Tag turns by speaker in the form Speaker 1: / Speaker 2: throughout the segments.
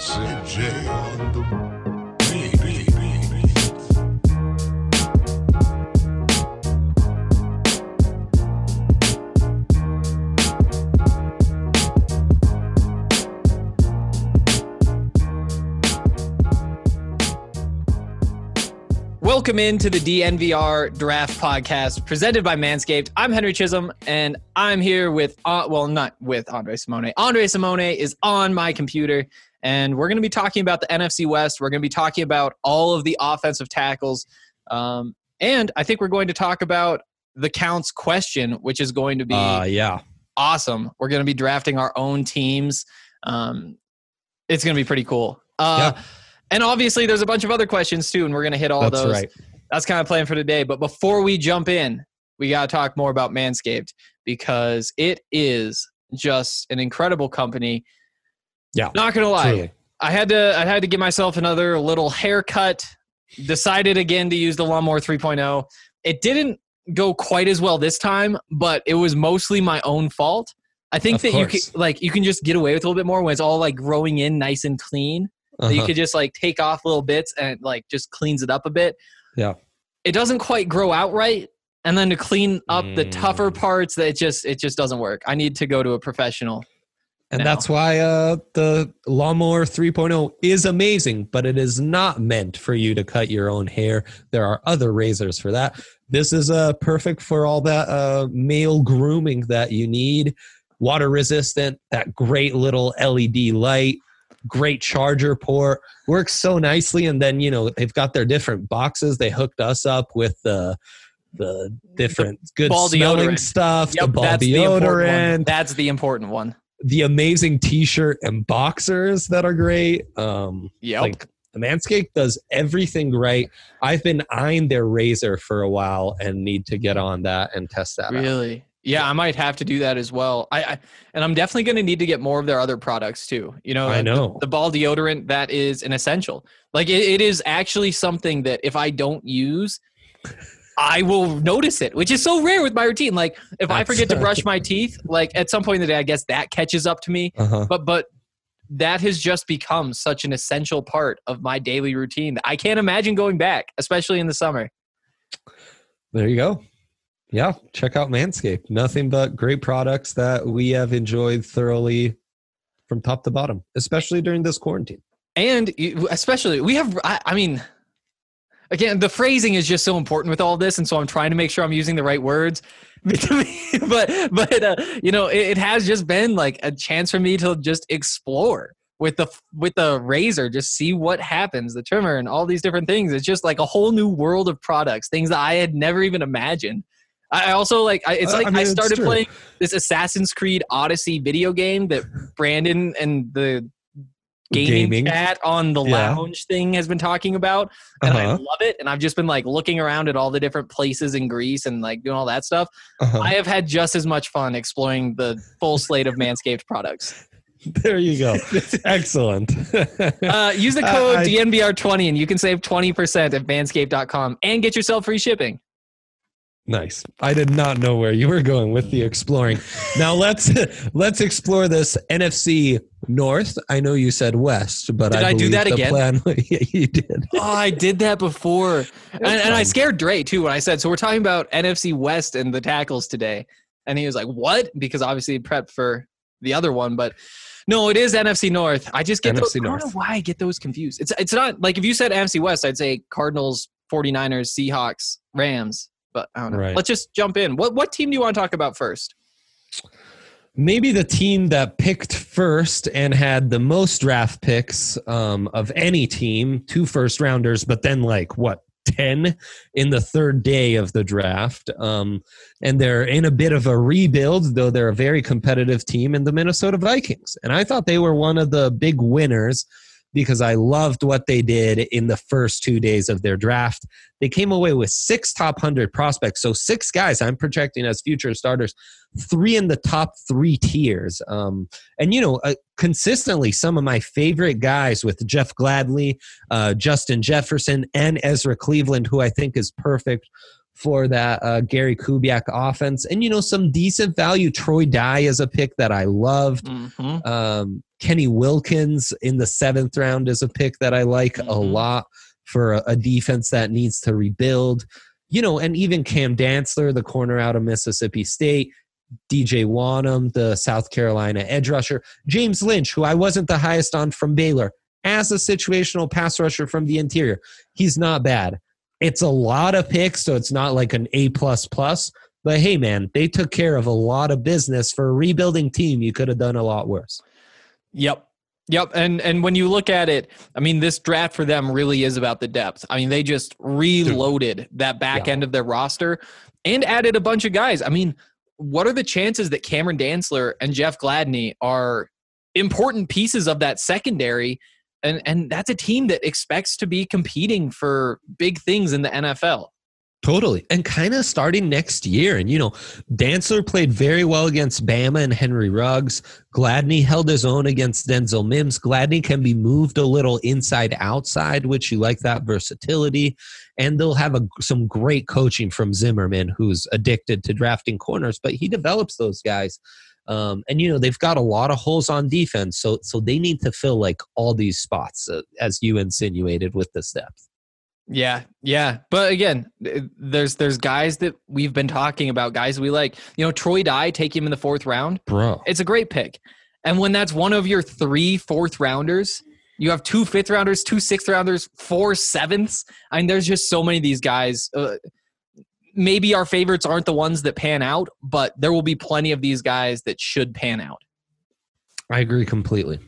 Speaker 1: Sid J on the beat.
Speaker 2: Welcome into the DNVR Draft Podcast presented by Manscaped. I'm Henry Chisholm, and I'm here with, not with Andre Simone. Andre Simone is on my computer, and we're going to be talking about the NFC West. We're going to be talking about all of the offensive tackles, and I think we're going to talk about the counts question, which is going to be awesome. We're going to be drafting our own teams. It's going to be pretty cool. And obviously, there's a bunch of other questions, too, and we're going to hit all those.
Speaker 3: Right.
Speaker 2: That's kind of plan for today. But before we jump in, we got to talk more about Manscaped because it is just an incredible company.
Speaker 3: Yeah.
Speaker 2: Not going to lie.
Speaker 3: Truly.
Speaker 2: I had to give myself another little haircut. Decided again to use the Lawnmower 3.0. It didn't go quite as well this time, but it was mostly my own fault. I think that you can just get away with a little bit more when it's all like growing in nice and clean. That you could just like take off little bits and like just cleans it up a bit.
Speaker 3: Yeah.
Speaker 2: It doesn't quite grow out right. And then to clean up the tougher parts, that it just doesn't work. I need to go to a professional.
Speaker 3: And that's why the Lawnmower 3.0 is amazing, but it is not meant for you to cut your own hair. There are other razors for that. This is perfect for all that male grooming that you need. Water resistant, that great little LED light. Great charger port, works so nicely. And then, they've got their different boxes. They hooked us up with the different good smelling deodorant stuff, the ball deodorant.
Speaker 2: That's the important one.
Speaker 3: The amazing t-shirt and boxers that are great. Like Manscaped does everything right. I've been eyeing their razor for a while and need to get on that and test that out.
Speaker 2: Really? Yeah, I might have to do that as well. And I'm definitely going to need to get more of their other products too.
Speaker 3: I know
Speaker 2: the ball deodorant, that is an essential. Like it is actually something that if I don't use, I will notice it, which is so rare with my routine. Like if I forget to brush my teeth, like at some point in the day, I guess that catches up to me. But that has just become such an essential part of my daily routine that I can't imagine going back, especially in the summer.
Speaker 3: There you go. Yeah, check out Manscaped. Nothing but great products that we have enjoyed thoroughly from top to bottom, especially during this quarantine.
Speaker 2: And especially, we have, again, the phrasing is just so important with all this, and so I'm trying to make sure I'm using the right words. but it has just been like a chance for me to just explore with the razor, just see what happens, the trimmer and all these different things. It's just like a whole new world of products, things that I had never even imagined. I also I started playing this Assassin's Creed Odyssey video game that Brandon and the gaming chat on the lounge thing has been talking about. And I love it. And I've just been like looking around at all the different places in Greece and like doing all that stuff. I have had just as much fun exploring the full slate of Manscaped products.
Speaker 3: There you go. Excellent.
Speaker 2: Use the code DNVR20 and you can save 20% at manscaped.com and get yourself free shipping.
Speaker 3: Nice. I did not know where you were going with the exploring. Now let's explore this NFC North. I know you said West, but
Speaker 2: did I do that again?
Speaker 3: Yeah, you did.
Speaker 2: Oh, I did that before, and I scared Dre too when I said. So we're talking about NFC West and the tackles today, and he was like, "What?" Because obviously he prepped for the other one, but no, it is NFC North. I just get those. I don't know why I get those confused. It's not like if you said NFC West, I'd say Cardinals, 49ers, Seahawks, Rams. But I don't know. Right. Let's just jump in. What team do you want to talk about first?
Speaker 3: Maybe the team that picked first and had the most draft picks of any team, 2 first-rounders, but then 10 in the third day of the draft. And they're in a bit of a rebuild, though they're a very competitive team in the Minnesota Vikings. And I thought they were one of the big winners because I loved what they did in the first 2 days of their draft. They came away with 6 top 100 prospects. So 6 guys I'm projecting as future starters, 3 in the top 3 tiers. Consistently some of my favorite guys with Jeff Gladney, Justin Jefferson, and Ezra Cleveland, who I think is perfect for that Gary Kubiak offense. And, some decent value. Troy Dye is a pick that I loved. Kenny Wilkins in the 7th round is a pick that I like a lot for a defense that needs to rebuild. And even Cam Dantzler, the corner out of Mississippi State, DJ Wanham, the South Carolina edge rusher, James Lynch, who I wasn't the highest on from Baylor, as a situational pass rusher from the interior. He's not bad. It's a lot of picks, so it's not like an A++. But hey, man, they took care of a lot of business for a rebuilding team. You could have done a lot worse.
Speaker 2: Yep. And when you look at it, I mean, this draft for them really is about the depth. I mean, they just reloaded that back end of their roster and added a bunch of guys. I mean, what are the chances that Cameron Dantzler and Jeff Gladney are important pieces of that secondary? And that's a team that expects to be competing for big things in the NFL.
Speaker 3: Totally. And kind of starting next year. And, Dantzler played very well against Bama and Henry Ruggs. Gladney held his own against Denzel Mims. Gladney can be moved a little inside outside, which you like that versatility. And they'll have some great coaching from Zimmerman, who's addicted to drafting corners, but he develops those guys. And, they've got a lot of holes on defense. So they need to fill like all these spots, as you insinuated with this depth.
Speaker 2: Yeah. But again, there's guys that we've been talking about, guys we like. Troy Dye, take him in the 4th round.
Speaker 3: Bro.
Speaker 2: It's a great pick. And when that's one of your 3 4th rounders, you have 2 5th rounders, 2 6th rounders, 4 7ths. I mean, there's just so many of these guys. Maybe our favorites aren't the ones that pan out, but there will be plenty of these guys that should pan out.
Speaker 3: I agree completely.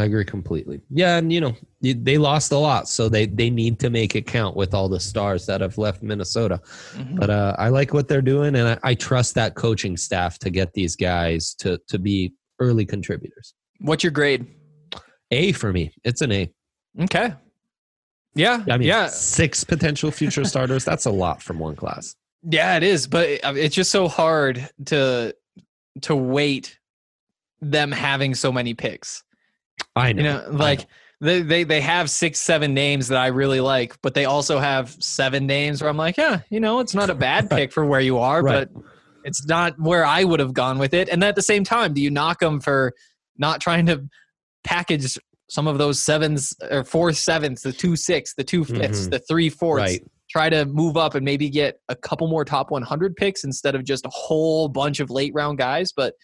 Speaker 3: Yeah, and they lost a lot, so they need to make it count with all the stars that have left Minnesota. But I like what they're doing, and I trust that coaching staff to get these guys to be early contributors.
Speaker 2: What's your grade?
Speaker 3: A for me. It's an A.
Speaker 2: Okay. Yeah.
Speaker 3: 6 potential future starters. That's a lot from one class.
Speaker 2: Yeah, it is, but it's just so hard to weight them having so many picks.
Speaker 3: I know.
Speaker 2: They have 6, 7 names that I really like, but they also have 7 names where I'm like, it's not a bad pick for where you are, but it's not where I would have gone with it. And at the same time, do you knock them for not trying to package some of those 7s or 4 7s, the 2 6, the 2 5s, the 3 4s? Right. Try to move up and maybe get a couple more top 100 picks instead of just a whole bunch of late round guys. But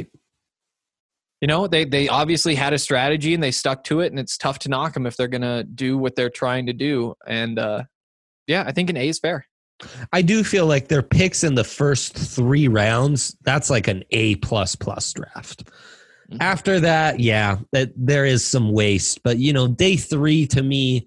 Speaker 2: they obviously had a strategy and they stuck to it, and it's tough to knock them if they're going to do what they're trying to do. And I think an A is fair.
Speaker 3: I do feel like their picks in the first 3 rounds, that's like an A++ draft. After that, that there is some waste, but day 3 to me,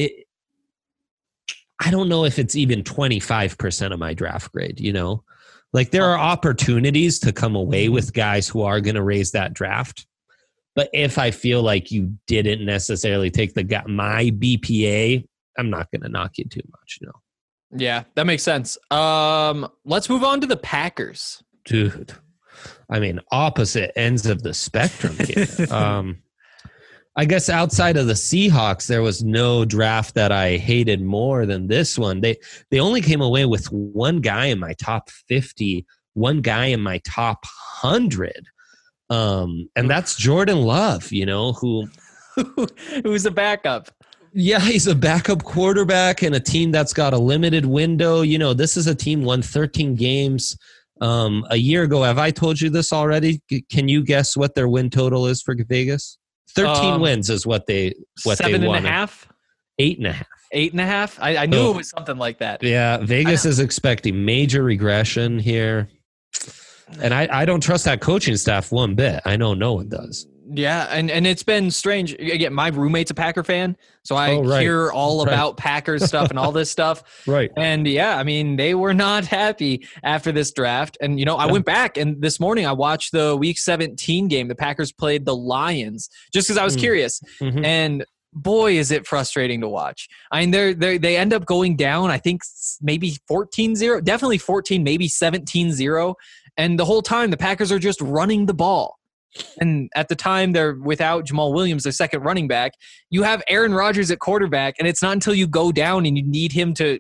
Speaker 3: I don't know if it's even 25% of my draft grade, Like there are opportunities to come away with guys who are going to raise that draft. But if I feel like you didn't necessarily take my BPA, I'm not going to knock you too much,
Speaker 2: Yeah, that makes sense. Let's move on to the Packers.
Speaker 3: Dude, I mean, opposite ends of the spectrum here. I guess outside of the Seahawks, there was no draft that I hated more than this one. They only came away with one guy in my top 50, one guy in my top 100. And that's Jordan Love,
Speaker 2: who's a backup.
Speaker 3: Yeah, he's a backup quarterback in a team that's got a limited window. This is a team won 13 games a year ago. Have I told you this already? Can you guess what their win total is for Vegas? 13 wins is what they won.
Speaker 2: 7.5?
Speaker 3: 8.5.
Speaker 2: 8.5? I knew it was something like that.
Speaker 3: Yeah, Vegas is expecting major regression here. And I don't trust that coaching staff one bit. I know no one does.
Speaker 2: Yeah, and it's been strange. Again, my roommate's a Packer fan, so I hear all about Packers stuff and all this stuff.
Speaker 3: Right.
Speaker 2: And I mean, they were not happy after this draft. And, I went back and this morning I watched the Week 17 game. The Packers played the Lions just because I was curious. Mm-hmm. And boy, is it frustrating to watch. I mean, they end up going down, I think maybe 14-0, definitely 14, maybe 17-0. And the whole time the Packers are just running the ball. And at the time, they're without Jamal Williams, their second running back. You have Aaron Rodgers at quarterback, and it's not until you go down and you need him to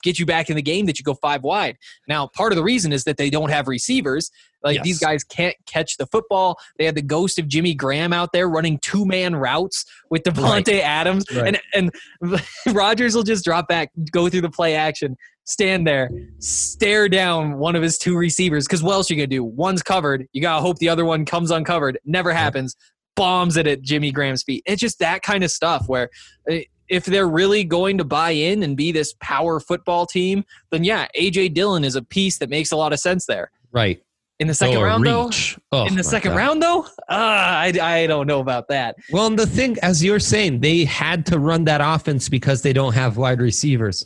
Speaker 2: get you back in the game that you go 5 wide. Now, part of the reason is that they don't have receivers. Like these guys can't catch the football. They had the ghost of Jimmy Graham out there running 2-man routes with Devontae Adams.
Speaker 3: Right.
Speaker 2: And Rodgers will just drop back, go through the play action, stand there, stare down one of his 2 receivers. Because what else are you going to do? One's covered. You got to hope the other one comes uncovered. Never happens. Bombs it at Jimmy Graham's feet. It's just that kind of stuff where if they're really going to buy in and be this power football team, then yeah, A.J. Dillon is a piece that makes a lot of sense there.
Speaker 3: Right.
Speaker 2: In the second round, though? In the second round, though? I don't know about that.
Speaker 3: Well, and the thing, as you're saying, they had to run that offense because they don't have wide receivers.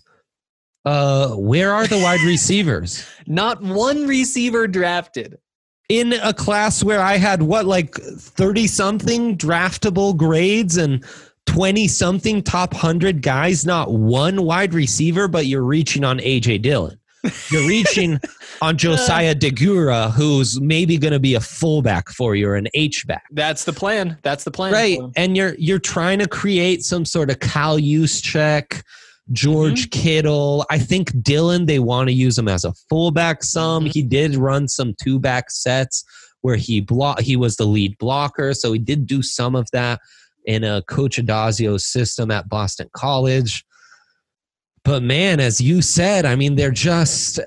Speaker 3: Where are the wide receivers?
Speaker 2: Not one receiver drafted.
Speaker 3: In a class where I had, 30-something draftable grades and 20-something top 100 guys, not one wide receiver, but you're reaching on A.J. Dillon. You're reaching on Josiah Deguara, who's maybe going to be a fullback for you or an H-back.
Speaker 2: That's the plan.
Speaker 3: Right. And you're trying to create some sort of Kyle Juszczyk, George Kittle. I think Dillon, they want to use him as a fullback some. He did run some 2-back sets where he was the lead blocker, so he did do some of that in a Coach Adazio's system at Boston College. But man, as you said, I mean, they're just,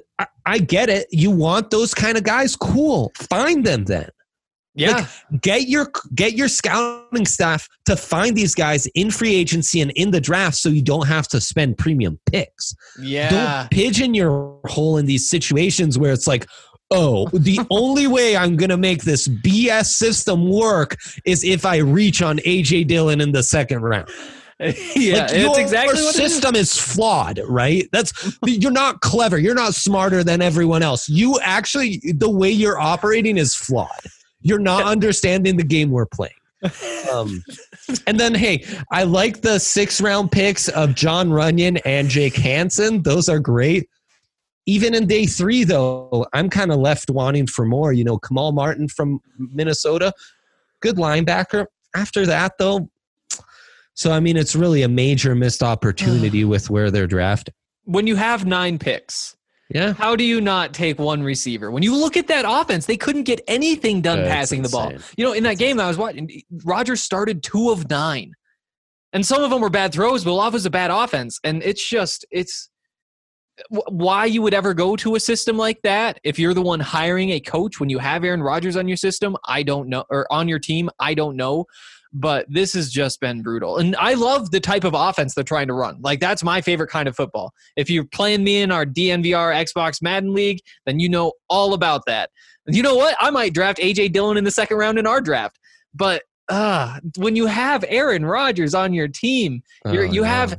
Speaker 3: I get it. You want those kind of guys? Cool. Find them then.
Speaker 2: Yeah.
Speaker 3: Get your scouting staff to find these guys in free agency and in the draft so you don't have to spend premium picks.
Speaker 2: Yeah.
Speaker 3: Don't pigeon your hole in these situations where it's like, oh, the only way I'm going to make this BS system work is if I reach on A.J. Dillon in the second round.
Speaker 2: Yeah, it's exactly what
Speaker 3: your system is flawed, right? You're not clever. You're not smarter than everyone else. You actually, the way you're operating is flawed. You're not understanding the game we're playing. And then, hey, I like the 6th-round picks of John Runyon and Jake Hansen. Those are great. Even in day 3, though, I'm kind of left wanting for more. Kamal Martin from Minnesota, good linebacker. After that, though, so, I mean, it's really a major missed opportunity with where they're drafted.
Speaker 2: When you have 9 picks,
Speaker 3: yeah,
Speaker 2: how do you not take one receiver? When you look at that offense, they couldn't get anything done passing the ball. In that game that I was watching, Rodgers started 2 of 9. And some of them were bad throws, but a lot was a bad offense. And it's why you would ever go to a system like that if you're the one hiring a coach when you have Aaron Rodgers on your system, I don't know, or on your team, I don't know. But this has just been brutal. And I love the type of offense they're trying to run. Like, that's my favorite kind of football. If you're playing me in our DNVR Xbox Madden League, then you know all about that. And you know what? I might draft A.J. Dillon in the second round in our draft. But when you have Aaron Rodgers on your team, they already have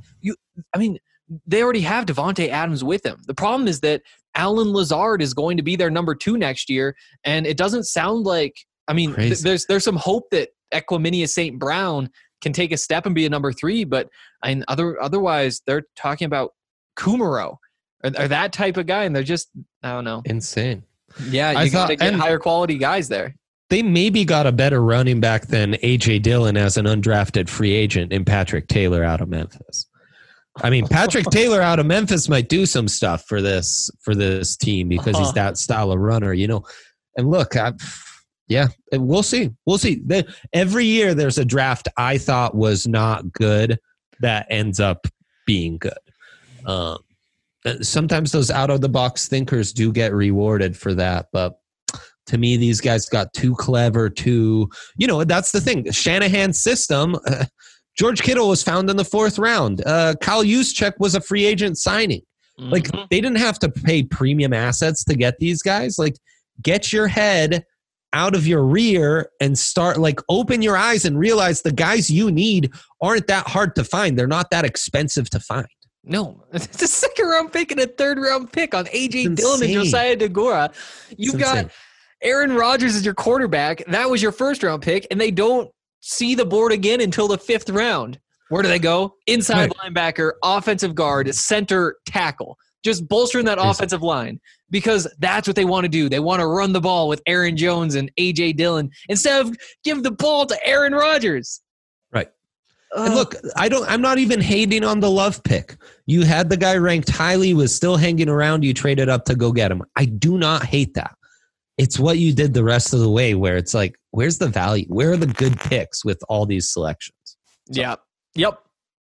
Speaker 2: Devontae Adams with him. The problem is that Alan Lazard is going to be their number 2 next year. And it doesn't sound like, there's some hope that Equanimeous St. Brown can take a step and be a number 3, but otherwise they're talking about Kumaro or that type of guy, and they're just, I don't know.
Speaker 3: Insane.
Speaker 2: Yeah, you got to get higher quality guys there.
Speaker 3: They maybe got a better running back than A.J. Dillon as an undrafted free agent in Patrick Taylor out of Memphis. I mean, Patrick Taylor out of Memphis might do some stuff for this team because he's that style of runner, And look, yeah, we'll see. Every year there's a draft I thought was not good that ends up being good. Sometimes those out-of-the-box thinkers do get rewarded for that, but to me, these guys got too clever, that's the thing. Shanahan's system, George Kittle was found in the 4th round. Kyle Juszczyk was a free agent signing. Like, they didn't have to pay premium assets to get these guys. Like, get your head out of your rear and start, open your eyes and realize the guys you need aren't that hard to find. They're not that expensive to find.
Speaker 2: No, it's a 2nd-round pick and a 3rd-round pick on A.J. Dillon and Josiah Deguara. You've got Aaron Rodgers as your quarterback. That was your 1st-round pick, and they don't see the board again until the 5th round. Where do they go? Inside linebacker, offensive guard, center, tackle. Just bolstering that offensive line because that's what they want to do. They want to run the ball with Aaron Jones and A.J. Dillon instead of give the ball to Aaron Rodgers.
Speaker 3: Right. And look, I'm not even hating on the Love pick. You had the guy ranked highly, was still hanging around. You traded up to go get him. I do not hate that. It's what you did the rest of the way where it's like, where's the value? Where are the good picks with all these selections? So.
Speaker 2: Yeah. Yep.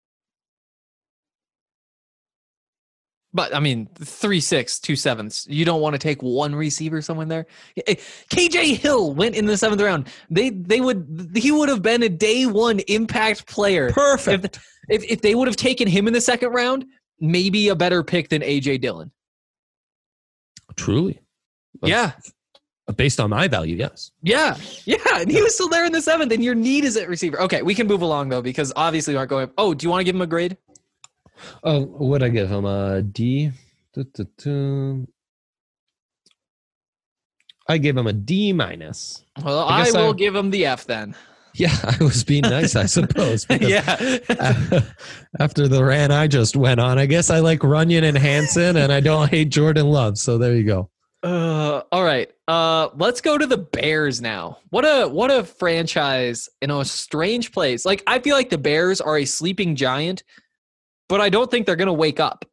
Speaker 2: But I mean, 3-6, 2-7s. You don't want to take one receiver somewhere there. KJ Hill went in the 7th round. He would have been a day one impact player.
Speaker 3: Perfect.
Speaker 2: If they would have taken him in the 2nd round, maybe a better pick than AJ Dillon.
Speaker 3: Truly.
Speaker 2: Yeah.
Speaker 3: Based on my value, yes.
Speaker 2: Yeah. And he was still there in the 7th, and your need is at receiver. Okay, we can move along though, because obviously we aren't going. Oh, do you want to give him a grade?
Speaker 3: Oh, what'd I give him? A D? I gave him a D-.
Speaker 2: Well, I will give him the F then.
Speaker 3: Yeah, I was being nice, I suppose.
Speaker 2: Yeah.
Speaker 3: After the rant I just went on, I guess I like Runyon and Hansen, and I don't hate Jordan Love. So there you go.
Speaker 2: All right. Let's go to the Bears now. What a franchise in a strange place. Like, I feel like the Bears are a sleeping giant, but I don't think they're going to wake up.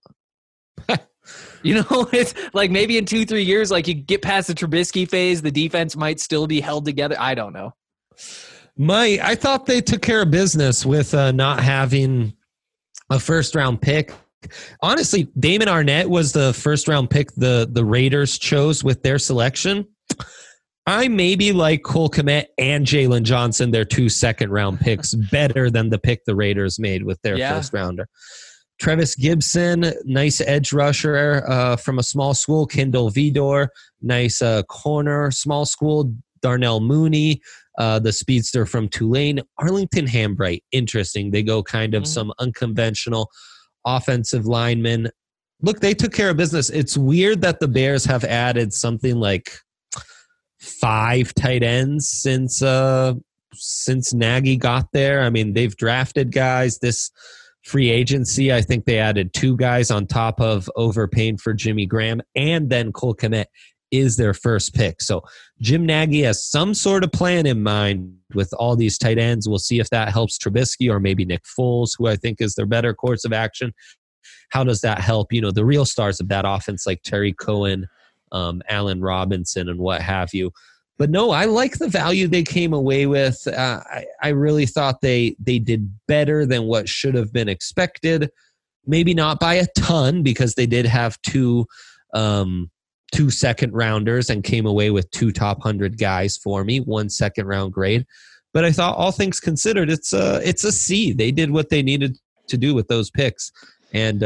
Speaker 2: It's like maybe in 2-3 years, like you get past the Trubisky phase, the defense might still be held together. I don't know.
Speaker 3: I thought they took care of business with not having a 1st-round pick. Honestly, Damon Arnett was the 1st-round pick the Raiders chose with their selection. I maybe like Cole Kmet and Jalen Johnson, their 2 second-round picks, better than the pick the Raiders made with their 1st-rounder. Trevis Gibson, nice edge rusher from a small school. Kendall Vidor, nice corner, small school. Darnell Mooney, the speedster from Tulane. Arlington Hambright, interesting. They go kind of some unconventional offensive linemen. Look, they took care of business. It's weird that the Bears have added something like 5 tight ends since Nagy got there. I mean, they've drafted guys. This free agency, I think they added 2 guys on top of overpaying for Jimmy Graham, and then Cole Kmet is their 1st pick. So Jim Nagy has some sort of plan in mind with all these tight ends. We'll see if that helps Trubisky or maybe Nick Foles, who I think is their better course of action. How does that help, the real stars of that offense like Terry Cohen, Allen Robinson, and what have you? But no, I like the value they came away with. I really thought they did better than what should have been expected. Maybe not by a ton, because they did have 2 second-rounders and came away with 2 top 100 guys for me, 1 second-round grade. But I thought, all things considered, it's a C. They did what they needed to do with those picks. And,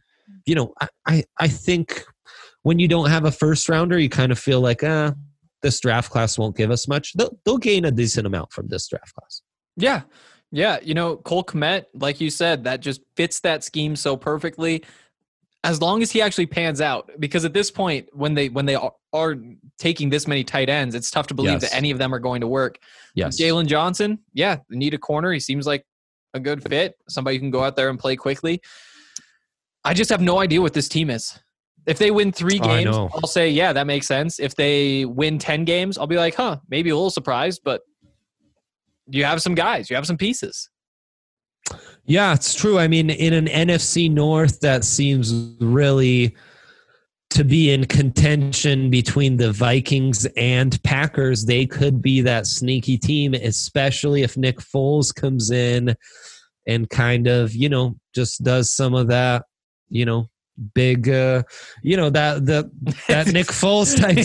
Speaker 3: I think when you don't have a 1st-rounder, you kind of feel like, this draft class won't give us much. They'll gain a decent amount from this draft class. Yeah.
Speaker 2: Yeah. Cole Kmet, like you said, that just fits that scheme so perfectly. As long as he actually pans out, because at this point, when they are taking this many tight ends, it's tough to believe that any of them are going to work.
Speaker 3: Yes.
Speaker 2: Jalen Johnson, they need a corner. He seems like a good fit, somebody who can go out there and play quickly. I just have no idea what this team is. If they win 3 games, I'll say, yeah, that makes sense. If they win 10 games, I'll be like, maybe a little surprised, but you have some guys, you have some pieces.
Speaker 3: Yeah, it's true. I mean, in an NFC North that seems really to be in contention between the Vikings and Packers, they could be that sneaky team, especially if Nick Foles comes in and kind of, just does some of that, big that Nick Foles type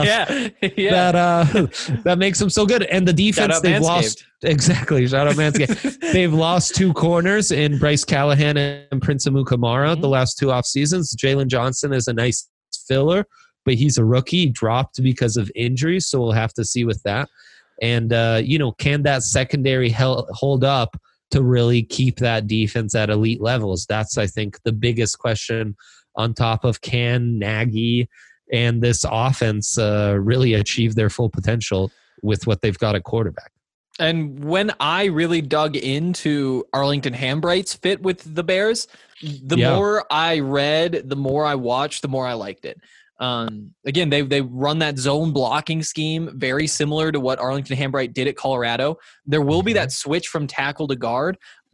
Speaker 3: stuff that makes them so good. And the defense they've lost, exactly, shout out Manscaped. They've lost 2 corners in Bryce Callahan and Prince Amukamara the last 2 off seasons. Jalen Johnson is a nice filler, but he's a rookie. He dropped because of injuries, so we'll have to see with that. And can that secondary hold up to really keep that defense at elite levels? That's, I think, the biggest question, on top of can Nagy and this offense really achieve their full potential with what they've got at quarterback.
Speaker 2: And when I really dug into Arlington Hambright's fit with the Bears, the more I read, the more I watched, the more I liked it. Again, they run that zone blocking scheme very similar to what Arlington Hambright did at Colorado. There will be that switch from tackle to guard,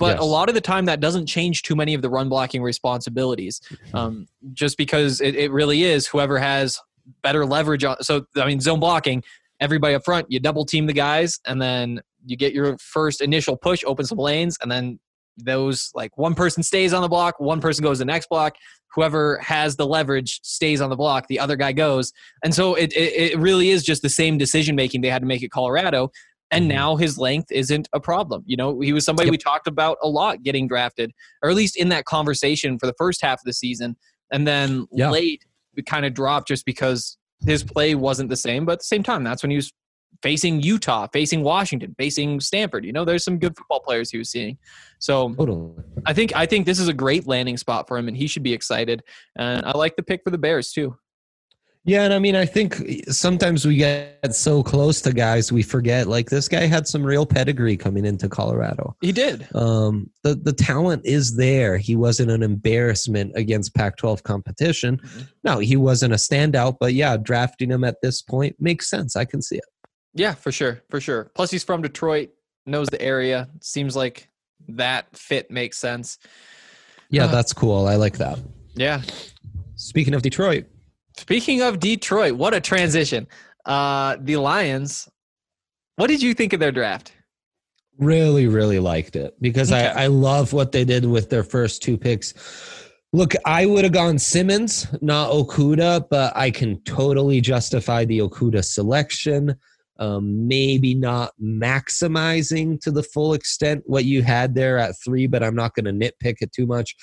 Speaker 2: But
Speaker 3: Yes.
Speaker 2: a lot of the time that doesn't change too many of the run blocking responsibilities. Just because it really is whoever has better leverage on. So, I mean, zone blocking, everybody up front, you double team the guys, and then you get your first initial push, open some lanes, and then those, like, one person stays on the block, one person goes to the next block. Whoever has the leverage stays on the block, the other guy goes. And so it really is just the same decision making they had to make at Colorado. And now his length isn't a problem. You know, he was somebody we talked about a lot getting drafted, or at least in that conversation for the first half of the season. And then late, it kind of dropped just because his play wasn't the same. But at the same time, that's when he was facing Utah, facing Washington, facing Stanford. You know, there's some good football players he was seeing. So
Speaker 3: Totally.
Speaker 2: I think this is a great landing spot for him, and he should be excited. And I like the pick for the Bears too.
Speaker 3: Yeah, and I mean, I think sometimes we get so close to guys, we forget, like, this guy had some real pedigree coming into Colorado.
Speaker 2: He did.
Speaker 3: The talent is there. He wasn't an embarrassment against Pac-12 competition. No, he wasn't a standout, but yeah, drafting him at this point makes sense. I can see it.
Speaker 2: Yeah, for sure. For sure. Plus, he's from Detroit, knows the area. Seems like that fit makes sense.
Speaker 3: Yeah, that's cool. I like that.
Speaker 2: Yeah.
Speaker 3: Speaking of Detroit.
Speaker 2: Speaking of Detroit, what a transition. The Lions, what did you think of their draft?
Speaker 3: Really, really liked it because
Speaker 2: Okay.
Speaker 3: I love what they did with their first two picks. Look, I would have gone Simmons, not Okuda, but I can totally justify the Okuda selection. Maybe not maximizing to the full extent what you had there at 3, but I'm not going to nitpick it too much.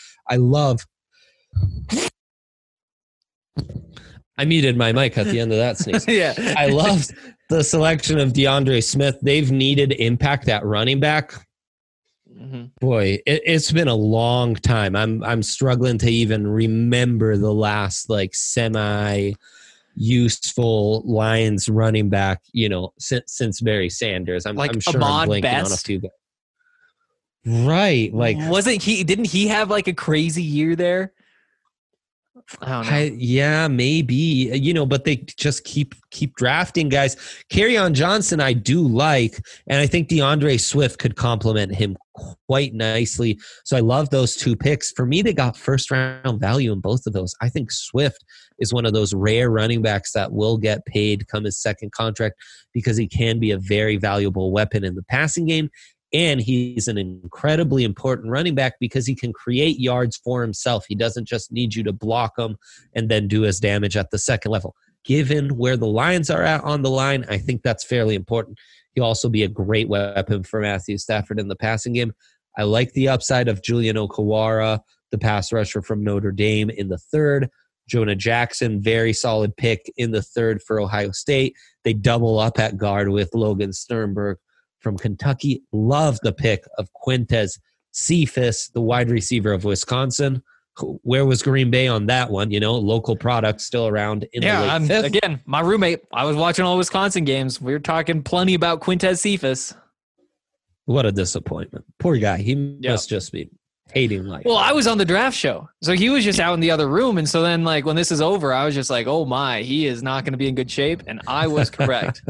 Speaker 3: I muted my mic at the end of that sneeze.
Speaker 2: Yeah.
Speaker 3: I loved the selection of DeAndre Smith. They've needed impact at running back. Boy, it's been a long time. I'm struggling to even remember the last, like, semi useful Lions running back, you know, since Barry Sanders. I'm sure
Speaker 2: Ahmad
Speaker 3: I'm blanking on a
Speaker 2: Best?
Speaker 3: few guys. Right, like,
Speaker 2: Didn't he have like a crazy year there? I don't know.
Speaker 3: yeah, maybe, you know, but they just keep drafting guys. Kerryon Johnson, I do like, and I think DeAndre Swift could complement him quite nicely. So I love those two picks. For me, they got first round value in both of those. I think Swift is one of those rare running backs that will get paid come his second contract because he can be a very valuable weapon in the passing game. And he's an incredibly important running back because he can create yards for himself. He doesn't just need you to block him and then do his damage at the second level. Given where the Lions are at on the line, I think that's fairly important. He'll also be a great weapon for Matthew Stafford in the passing game. I like the upside of Julian Okawara, the pass rusher from Notre Dame, in the third. Jonah Jackson, very solid pick in the third for Ohio State. They double up at guard with Logan Sternberg from Kentucky. Love the pick of Quintez Cephas, the wide receiver of Wisconsin. Where was Green Bay on that one? You know, local product still around in the late fifth.
Speaker 2: Again, my roommate, I was watching all Wisconsin games. We were talking plenty about Quintez Cephas.
Speaker 3: What a disappointment. Poor guy. He must just be hating life.
Speaker 2: Well, I was on the draft show, so he was just out in the other room. And so then, like, when this is over, I was just like, oh my, he is not going to be in good shape. And I was correct.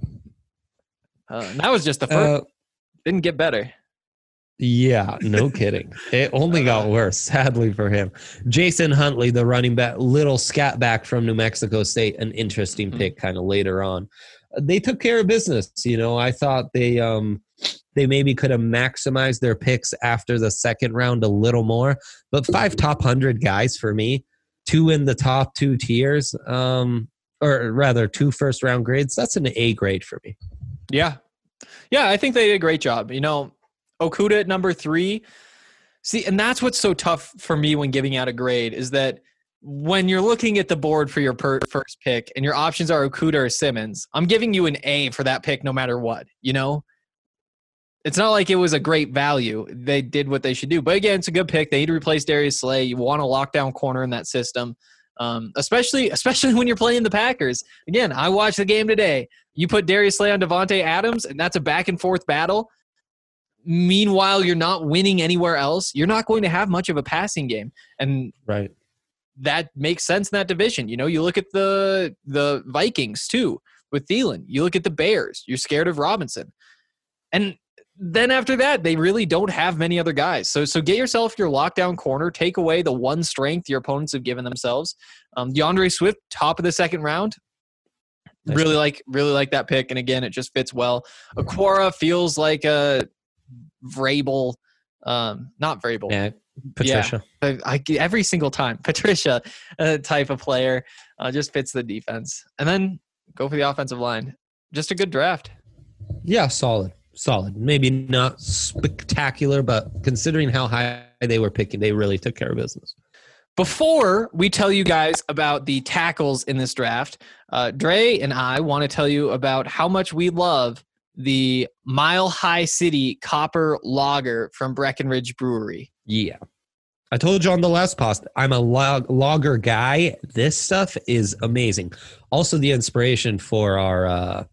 Speaker 2: And that was just the first. Didn't get better.
Speaker 3: Yeah, no kidding. It only got worse, sadly for him. Jason Huntley, the running back, little scat back from New Mexico State, an interesting pick kind of later on. They took care of business. You know, I thought they maybe could have maximized their picks after the second round a little more, but 5 top 100 guys for me, 2 in the top 2 tiers, or rather 2 first round grades. That's an A grade for me.
Speaker 2: Yeah. Yeah, I think they did a great job. You know, Okuda at number 3. See, and that's what's so tough for me when giving out a grade is that when you're looking at the board for your first pick and your options are Okuda or Simmons, I'm giving you an A for that pick no matter what, you know? It's not like it was a great value. They did what they should do. But again, it's a good pick. They need to replace Darius Slay. You want a lockdown corner in that system. Especially when you're playing the Packers. Again, I watched the game today. You put Darius Slay on Devontae Adams, and that's a back-and-forth battle. Meanwhile, you're not winning anywhere else. You're not going to have much of a passing game. And
Speaker 3: right,
Speaker 2: that makes sense in that division. You know, you look at the Vikings, too, with Thielen. You look at the Bears. You're scared of Robinson. And then after that, they really don't have many other guys. So get yourself your lockdown corner. Take away the one strength your opponents have given themselves. DeAndre Swift, top of the second round.
Speaker 3: Nice.
Speaker 2: Really like that pick. And again, it just fits well. Aquara feels like a Vrabel, not Vrabel.
Speaker 3: Yeah, Patricia.
Speaker 2: Yeah, every single time. Patricia type of player. Just fits the defense. And then go for the offensive line. Just a good draft.
Speaker 3: Yeah, solid. Maybe not spectacular, but considering how high they were picking, they really took care of business.
Speaker 2: Before we tell you guys about the tackles in this draft, Dre and I want to tell you about how much we love the Mile High City Copper Lager from Breckenridge Brewery.
Speaker 3: Yeah. I told you on the last post, I'm a lager guy. This stuff is amazing. Also, the inspiration for our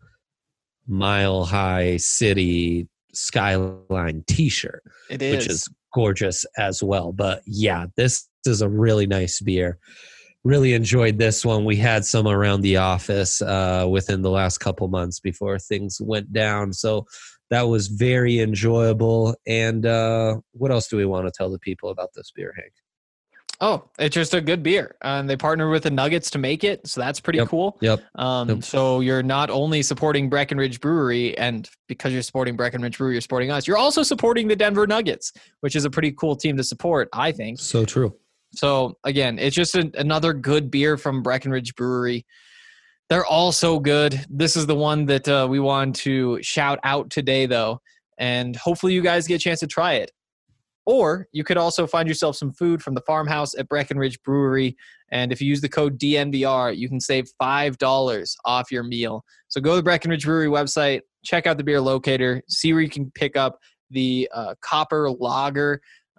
Speaker 3: Mile High City Skyline t-shirt.
Speaker 2: It is.
Speaker 3: Which is gorgeous as well. But yeah, this is a really nice beer. Really enjoyed this one. We had some around the office within the last couple months before things went down. So that was very enjoyable. And what else do we want to tell the people about this beer, Hank?
Speaker 2: Oh, it's just a good beer. And they partnered with the Nuggets to make it. So that's pretty cool.
Speaker 3: Yep.
Speaker 2: So you're not only supporting Breckenridge Brewery, and because you're supporting Breckenridge Brewery, you're supporting us. You're also supporting the Denver Nuggets, which is a pretty cool team to support, I think.
Speaker 3: So true.
Speaker 2: So again, it's just another good beer from Breckenridge Brewery. They're all so good. This is the one that we want to shout out today, though. And hopefully you guys get a chance to try it. Or you could also find yourself some food from the farmhouse at Breckenridge Brewery. And if you use the code DNVR, you can save $5 off your meal. So go to the Breckenridge Brewery website, check out the beer locator, see where you can pick up the Copper Lager.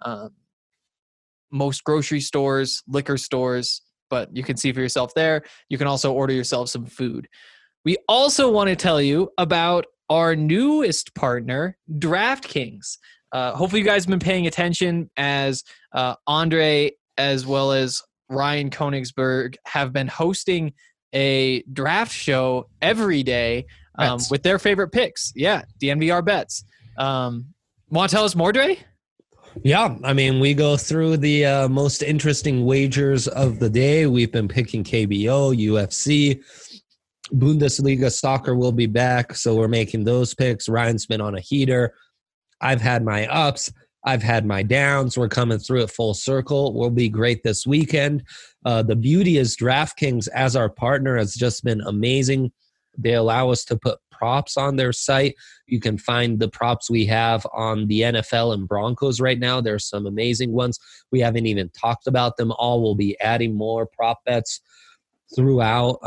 Speaker 2: Most grocery stores, liquor stores, but you can see for yourself there. You can also order yourself some food. We also want to tell you about our newest partner, DraftKings. Hopefully you guys have been paying attention as Andre as well as Ryan Koenigsberg have been hosting a draft show every day with their favorite picks. Yeah, DNVR bets. Want to tell us more, Dre?
Speaker 3: Yeah, I mean, we go through the most interesting wagers of the day. We've been picking KBO, UFC, Bundesliga soccer will be back, so we're making those picks. Ryan's been on a heater. I've had my ups. I've had my downs. We're coming through it full circle. We'll be great this weekend. The beauty is DraftKings as our partner has just been amazing. They allow us to put props on their site. You can find the props we have on the NFL and Broncos right now. There's some amazing ones. We haven't even talked about them all. We'll be adding more prop bets throughout.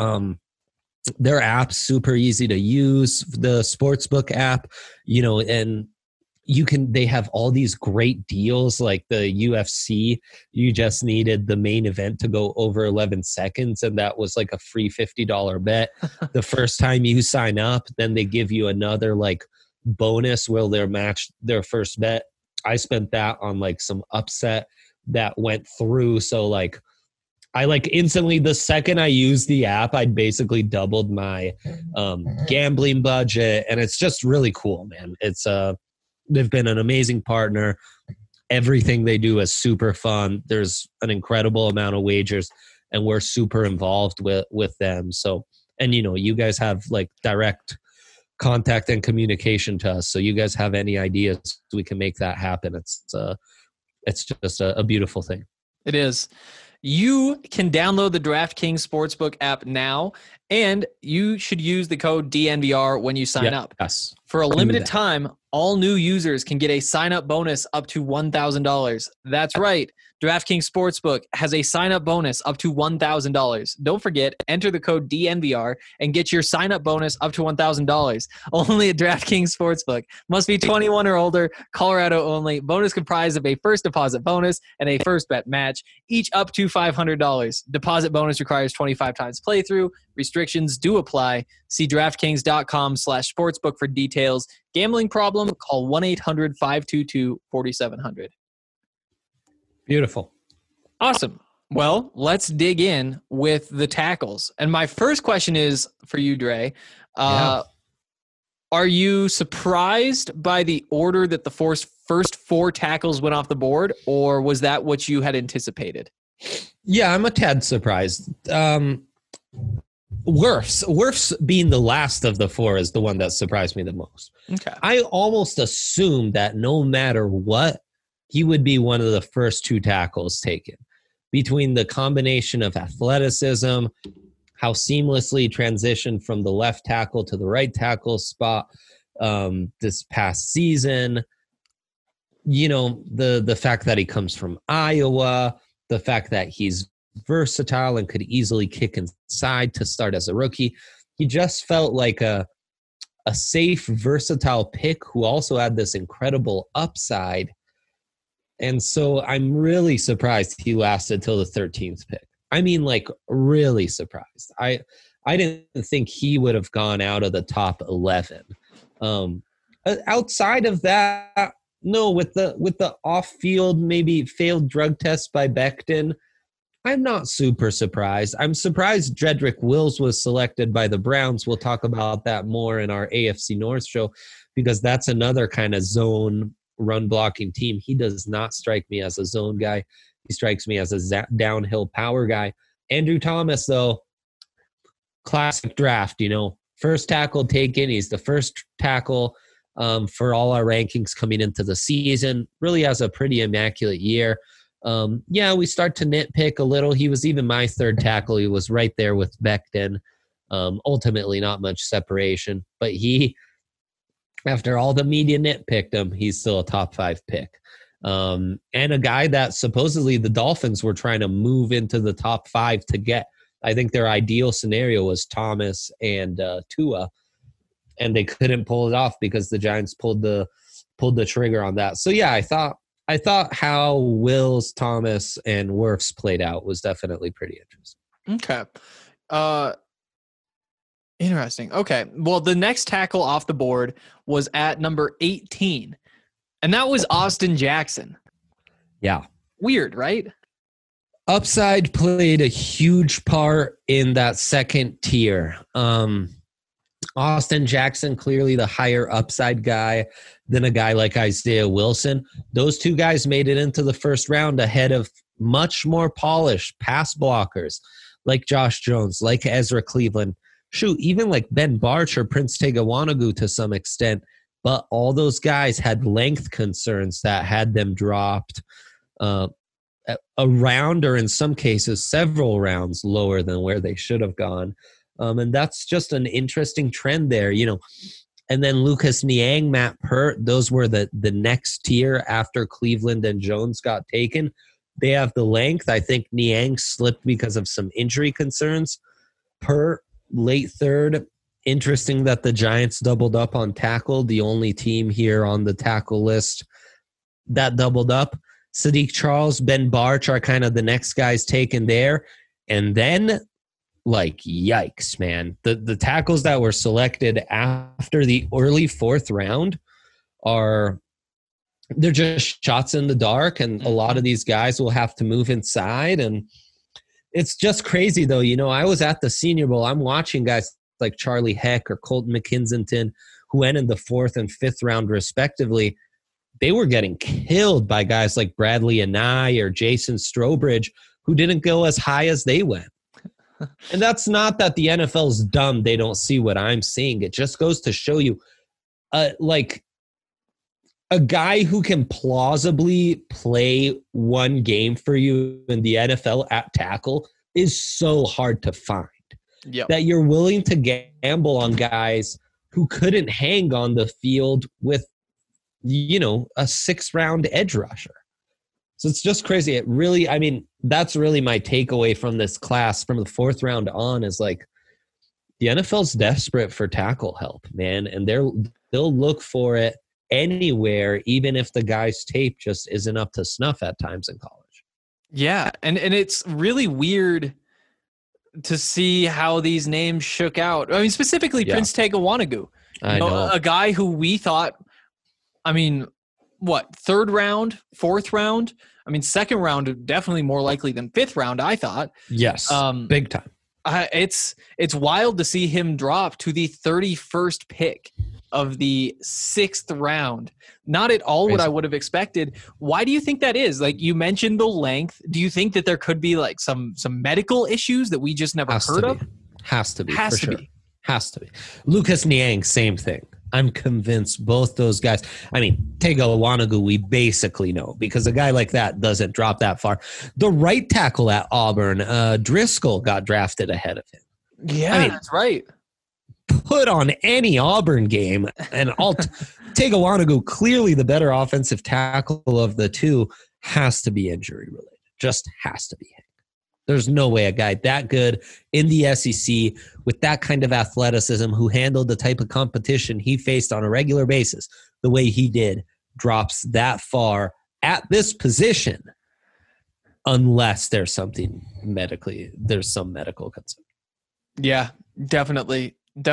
Speaker 3: Their app's super easy to use, the Sportsbook app, and they have all these great deals like the UFC. You just needed the main event to go over 11 seconds, and that was like a free $50 bet. The first time you sign up, then they give you another like bonus where they'll match their first bet. I spent that on like some upset that went through. So like I like instantly, the second I used the app, I'd basically doubled my gambling budget, and it's just really cool, man. It's they've been an amazing partner. Everything they do is super fun. There's an incredible amount of wagers, and we're super involved with them. So, and you guys have like direct contact and communication to us. So you guys have any ideas, we can make that happen. It's just a beautiful thing.
Speaker 2: It is. You can download the DraftKings Sportsbook app now, and you should use the code DNVR when you sign up.
Speaker 3: Yes.
Speaker 2: For a limited time, all new users can get a sign-up bonus up to $1,000. That's right. DraftKings Sportsbook has a sign-up bonus up to $1,000. Don't forget, enter the code DNVR and get your sign-up bonus up to $1,000. Only at DraftKings Sportsbook. Must be 21 or older, Colorado only. Bonus comprised of a first deposit bonus and a first bet match, each up to $500. Deposit bonus requires 25 times playthrough. Restrictions do apply. See DraftKings.com/sportsbook for details. Gambling problem? Call 1-800-522-4700.
Speaker 3: Beautiful.
Speaker 2: Awesome. Well, let's dig in with the tackles. And my first question is for you, Dre. Are you surprised by the order that the first 4 tackles went off the board, or was that what you had anticipated?
Speaker 3: Yeah, I'm a tad surprised. Wirfs being the last of the 4 is the one that surprised me the most.
Speaker 2: Okay.
Speaker 3: I almost assumed that no matter what, he would be one of the first 2 tackles taken. Between the combination of athleticism, how seamlessly transitioned from the left tackle to the right tackle spot this past season, the fact that he comes from Iowa, the fact that he's versatile and could easily kick inside to start as a rookie. He just felt like a safe, versatile pick who also had this incredible upside. And so I'm really surprised he lasted till the 13th pick. I mean, like, really surprised. I didn't think he would have gone out of the top 11. Outside of that, no, with the off-field, maybe failed drug test by Becton, I'm not super surprised. I'm surprised Jedrick Wills was selected by the Browns. We'll talk about that more in our AFC North show, because that's another kind of zone run-blocking team. He does not strike me as a zone guy. He strikes me as a downhill power guy. Andrew Thomas, though, classic draft, first tackle taken. He's the first tackle for all our rankings coming into the season. Really has a pretty immaculate year. We start to nitpick a little. He was even my 3rd tackle. He was right there with Becton. Ultimately, not much separation. But he, after all the media nitpicked him, he's still a top 5 pick. And a guy that supposedly the Dolphins were trying to move into the top 5 to get. I think their ideal scenario was Thomas and Tua, and they couldn't pull it off because the Giants pulled the trigger on that. So yeah, I thought how Wills, Thomas, and Wirfs played out was definitely pretty interesting.
Speaker 2: Okay. Interesting. Okay. Well, the next tackle off the board was at number 18. And that was Austin Jackson.
Speaker 3: Yeah.
Speaker 2: Weird, right?
Speaker 3: Upside played a huge part in that second tier. Austin Jackson, clearly the higher upside guy than a guy like Isaiah Wilson. Those 2 guys made it into the first round ahead of much more polished pass blockers like Josh Jones, like Ezra Cleveland. Shoot, even like Ben Barch or Prince Tega Wanogho to some extent. But all those guys had length concerns that had them dropped a round, or in some cases several rounds lower than where they should have gone. And that's just an interesting trend there, And then Lucas Niang, Matt Pert, those were the next tier after Cleveland and Jones got taken. They have the length. I think Niang slipped because of some injury concerns. Pert, late 3rd. Interesting that the Giants doubled up on tackle, the only team here on the tackle list that doubled up. Sadiq Charles, Ben Barch are kind of the next guys taken there. And then, yikes, man. The tackles that were selected after the early 4th round they're just shots in the dark, and a lot of these guys will have to move inside. And it's just crazy, though. I was at the Senior Bowl. I'm watching guys like Charlie Heck or Colton McKinson, who went in the 4th and 5th round respectively. They were getting killed by guys like Bradley Anai or Jason Strowbridge, who didn't go as high as they went. And that's not that the NFL's dumb. They don't see what I'm seeing. It just goes to show you, a guy who can plausibly play one game for you in the NFL at tackle is so hard to find.
Speaker 2: Yep.
Speaker 3: That you're willing to gamble on guys who couldn't hang on the field with, a 6th round edge rusher. So it's just crazy. It really, that's really my takeaway from this class from the 4th round on is the NFL's desperate for tackle help, man. And they'll look for it anywhere, even if the guy's tape just isn't up to snuff at times in college.
Speaker 2: Yeah. And it's really weird to see how these names shook out. Specifically Prince Tega Wanogho.
Speaker 3: I know.
Speaker 2: A guy who we thought, 3rd round, 4th round? 2nd round, definitely more likely than 5th round, I thought.
Speaker 3: Yes, big time.
Speaker 2: It's wild to see him drop to the 31st pick of the 6th round. Not at all what I would have expected. Why do you think that is? Like, you mentioned the length. Do you think that there could be like some medical issues that we just never heard of?
Speaker 3: Has to be.
Speaker 2: Has
Speaker 3: for
Speaker 2: to
Speaker 3: sure.
Speaker 2: be.
Speaker 3: Has to be. Lucas Niang, same thing. I'm convinced both those guys. I mean, Tega Iwanagu, we basically know because a guy like that doesn't drop that far. The right tackle at Auburn, Driscoll, got drafted ahead of him.
Speaker 2: Yeah, that's right.
Speaker 3: Put on any Auburn game, and Tega Iwanagu, clearly the better offensive tackle of the two, has to be injury related. Just has to be. There's no way a guy that good in the SEC with that kind of athleticism who handled the type of competition he faced on a regular basis the way he did drops that far at this position unless there's some medical concern.
Speaker 2: Yeah, definitely.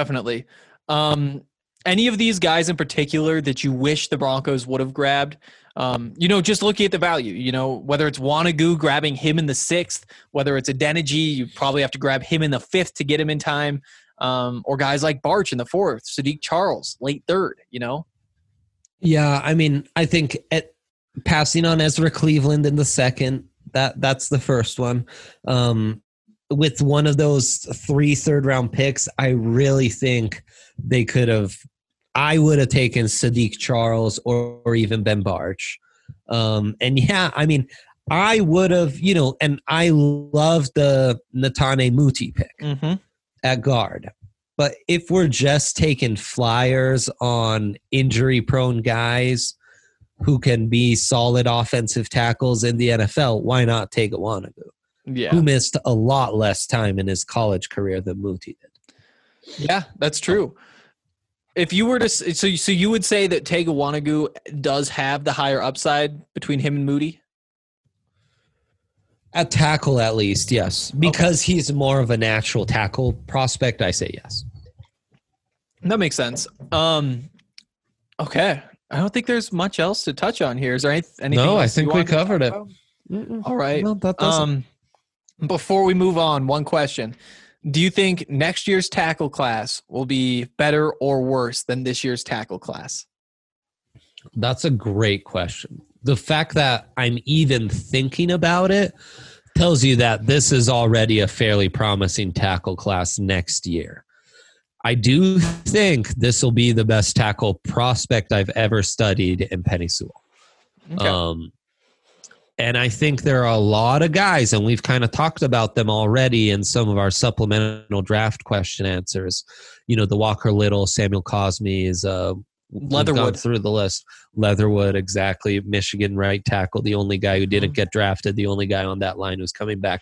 Speaker 2: Any of these guys in particular that you wish the Broncos would have grabbed? Just looking at the value, whether it's Iwanagu, grabbing him in the 6th, whether it's Adeniji, you probably have to grab him in the 5th to get him in time, or guys like Barch in the 4th, Sadiq Charles, late 3rd,
Speaker 3: Yeah, I mean, I think passing on Ezra Cleveland in the 2nd, that's the first one. With one of those 3 third-round picks, I really think they could have – I would have taken Sadiq Charles or even Ben Barch. I would have, and I love the Netane Muti pick at guard. But if we're just taking flyers on injury-prone guys who can be solid offensive tackles in the NFL, why not take Iwanagu?
Speaker 2: Yeah.
Speaker 3: Who missed a lot less time in his college career than Muti did.
Speaker 2: Yeah, that's true. If you were to, so you would say that Tega Iwanagu does have the higher upside between him and Moody?
Speaker 3: At tackle, at least, yes. Because he's more of a natural tackle prospect, I say yes.
Speaker 2: That makes sense. Okay. I don't think there's much else to touch on here. Is there anything
Speaker 3: No,
Speaker 2: else
Speaker 3: I think we covered it.
Speaker 2: All right.
Speaker 3: No, that doesn't.
Speaker 2: Before we move on, one question. Do you think next year's tackle class will be better or worse than this year's tackle class?
Speaker 3: That's a great question. The fact that I'm even thinking about it tells you that this is already a fairly promising tackle class next year. I do think this will be the best tackle prospect I've ever studied in Penei Sewell. Okay. And I think there are a lot of guys, and we've kind of talked about them already in some of our supplemental draft question answers. The Walker Little, Samuel Cosme's,
Speaker 2: Leatherwood
Speaker 3: through the list. Leatherwood, exactly. Michigan right tackle, the only guy who didn't get drafted, the only guy on that line who's coming back.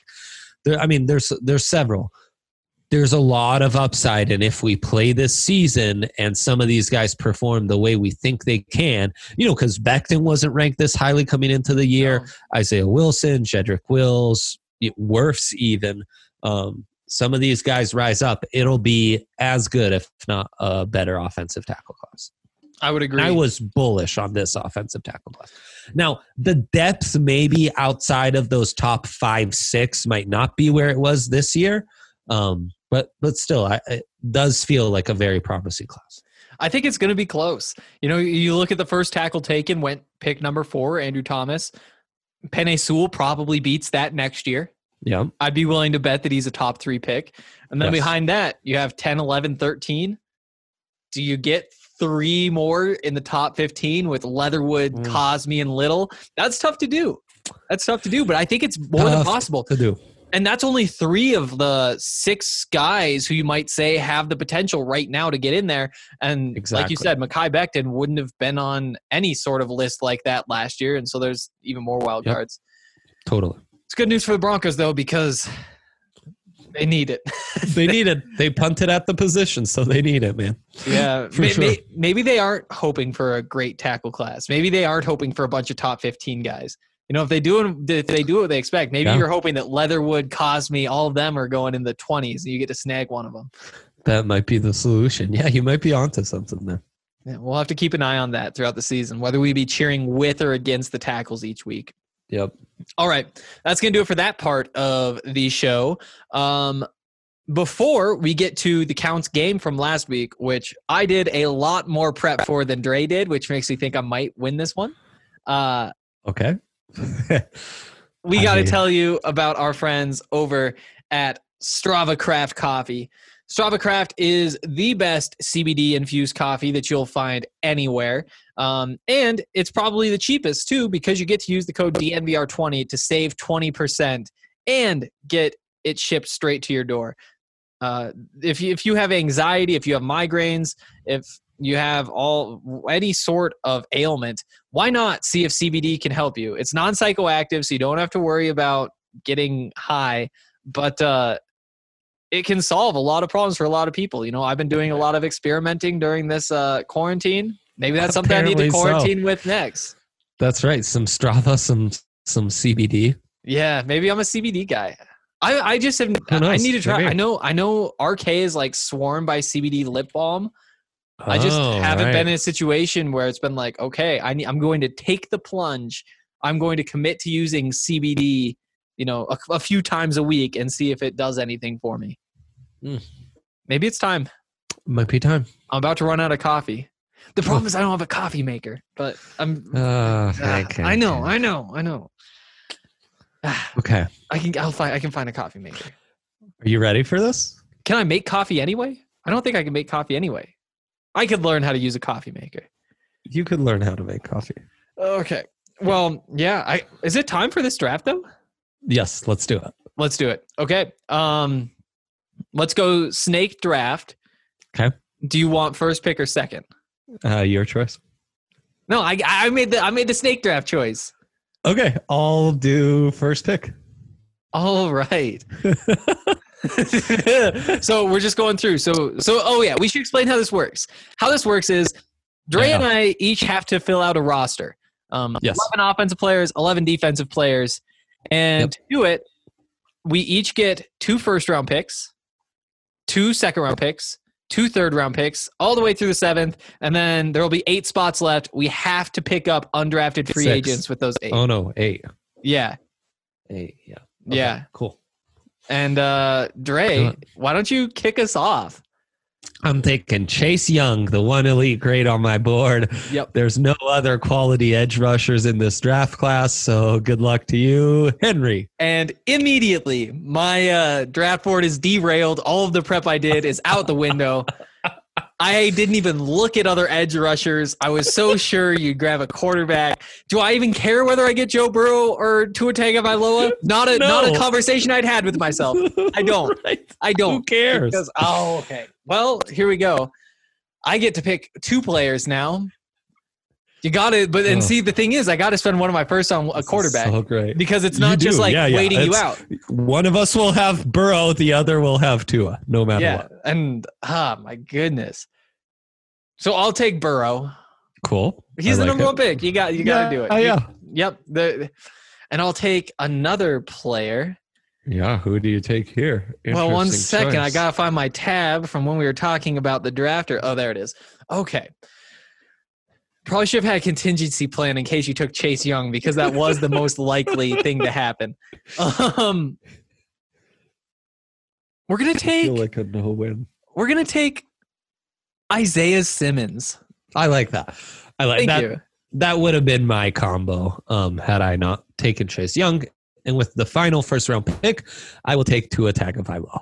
Speaker 3: There's several. There's a lot of upside, and if we play this season and some of these guys perform the way we think they can, because Becton wasn't ranked this highly coming into the year, no. Isaiah Wilson, Jedrick Wills, Wirfs even, some of these guys rise up, it'll be as good, if not a better offensive tackle class.
Speaker 2: I would agree.
Speaker 3: I was bullish on this offensive tackle class. Now, the depth maybe outside of those top 5-6 might not be where it was this year, but still, it does feel like a very promising class.
Speaker 2: I think it's going to be close. You look at the first tackle taken, went pick number 4, Andrew Thomas. Penei Sewell probably beats that next year.
Speaker 3: Yeah.
Speaker 2: I'd be willing to bet that he's a top 3 pick. And then behind that, you have 10, 11, 13. Do you get 3 more in the top 15 with Leatherwood, Cosme, and Little? That's tough to do. But I think it's more than possible
Speaker 3: to do.
Speaker 2: And that's only 3 of the 6 guys who you might say have the potential right now to get in there. And like you said, Mekhi Becton wouldn't have been on any sort of list like that last year. And so there's even more wild cards.
Speaker 3: Totally.
Speaker 2: It's good news for the Broncos, though, because they need it.
Speaker 3: They need it. They punted at the position, so they need it, man.
Speaker 2: Yeah. Maybe they aren't hoping for a great tackle class. Maybe they aren't hoping for a bunch of top 15 guys. If they do what they expect, maybe you're hoping that Leatherwood, Cosme, all of them are going in the 20s and you get to snag one of them.
Speaker 3: That might be the solution. Yeah, you might be onto something there.
Speaker 2: Yeah, we'll have to keep an eye on that throughout the season, whether we be cheering with or against the tackles each week.
Speaker 3: Yep.
Speaker 2: All right. That's going to do it for that part of the show. before we get to the Counts game from last week, which I did a lot more prep for than Dre did, which makes me think I might win this one.
Speaker 3: Okay.
Speaker 2: We got to tell you about our friends over at Strava Craft Coffee. Strava Craft is the best CBD infused coffee that you'll find anywhere. And it's probably the cheapest too, because you get to use the code DNVR20 to save 20% and get it shipped straight to your door. If you have anxiety, if you have migraines, if you have any sort of ailment, why not see if CBD can help you? It's non-psychoactive, so you don't have to worry about getting high, but it can solve a lot of problems for a lot of people. You know, I've been doing a lot of experimenting during this quarantine. Maybe that's something
Speaker 3: Apparently
Speaker 2: I need to quarantine with next.
Speaker 3: That's right. Some Strava, some CBD.
Speaker 2: Yeah, maybe I'm a CBD guy. I just have. I need to try.
Speaker 3: Maybe.
Speaker 2: I know RK is like swarmed by CBD lip balm. I just haven't been in a situation where it's been like, okay, I'm going to take the plunge. I'm going to commit to using CBD, you know, a few times a week and see if it does anything for me. Maybe it's time.
Speaker 3: Might be time.
Speaker 2: I'm about to run out of coffee. The problem is I don't have a coffee maker, but I'm. I know.
Speaker 3: Okay.
Speaker 2: I can find a coffee maker.
Speaker 3: Are you ready for this?
Speaker 2: Can I make coffee anyway? I don't think I can make coffee anyway. I could learn how to use a coffee maker.
Speaker 3: You could learn how to make coffee.
Speaker 2: Okay. Well, yeah. Is it time for this draft though?
Speaker 3: Yes, let's do it.
Speaker 2: Let's do it. Okay. Let's go snake draft.
Speaker 3: Okay.
Speaker 2: Do you want first pick or second?
Speaker 3: Your choice.
Speaker 2: No, I made the snake draft choice.
Speaker 3: Okay, I'll do first pick.
Speaker 2: All right. So we're just going through. So oh yeah, we should explain how this works. How this works is Dre and I each have to fill out a roster. 11 offensive players, 11 defensive players. And to do it, we each get 2 first-round picks, 2 second-round picks, 2 third-round picks, all the way through the 7th, and then there will be 8 spots left. We have to pick up undrafted free
Speaker 3: 6.
Speaker 2: agents with those 8.
Speaker 3: Oh, no, 8.
Speaker 2: Yeah.
Speaker 3: 8, yeah.
Speaker 2: Okay, yeah.
Speaker 3: Cool.
Speaker 2: And Dre, why don't you kick us off?
Speaker 3: I'm taking Chase Young, the one elite grade on my board.
Speaker 2: Yep.
Speaker 3: There's no other quality edge rushers in this draft class, so good luck to you, Henry.
Speaker 2: And immediately, my draft board is derailed. All of the prep I did is out the window. I didn't even look at other edge rushers. I was so sure you'd grab a quarterback. Do I even care whether I get Joe Burrow or Tua Tagovailoa? Not a conversation I'd had with myself. I don't.
Speaker 3: Right.
Speaker 2: I don't.
Speaker 3: Who cares?
Speaker 2: Because, okay. Well, here we go. I get to pick 2 players now. You got it, but see, the thing is, I got to spend one of my first on a quarterback.
Speaker 3: So great.
Speaker 2: Because it's not just waiting you out.
Speaker 3: One of us will have Burrow, the other will have Tua, no matter what.
Speaker 2: And my goodness. So I'll take Burrow.
Speaker 3: Cool.
Speaker 2: He's the number 1 pick. You got to do it.
Speaker 3: Yeah.
Speaker 2: Yep. And I'll take another player.
Speaker 3: Yeah, who do you take here?
Speaker 2: Well, one second.
Speaker 3: Choice.
Speaker 2: I got to find my tab from when we were talking about the drafter. Oh, there it is. Okay. Probably should have had a contingency plan in case you took Chase Young, because that was the most likely thing to happen. We're going to take...
Speaker 3: I feel like a no-win.
Speaker 2: We're going to take Isaiah Simmons.
Speaker 3: I like that.
Speaker 2: Thank you.
Speaker 3: That would have been my combo had I not taken Chase Young. And with the final first-round pick, I will take Tua Tagovailoa.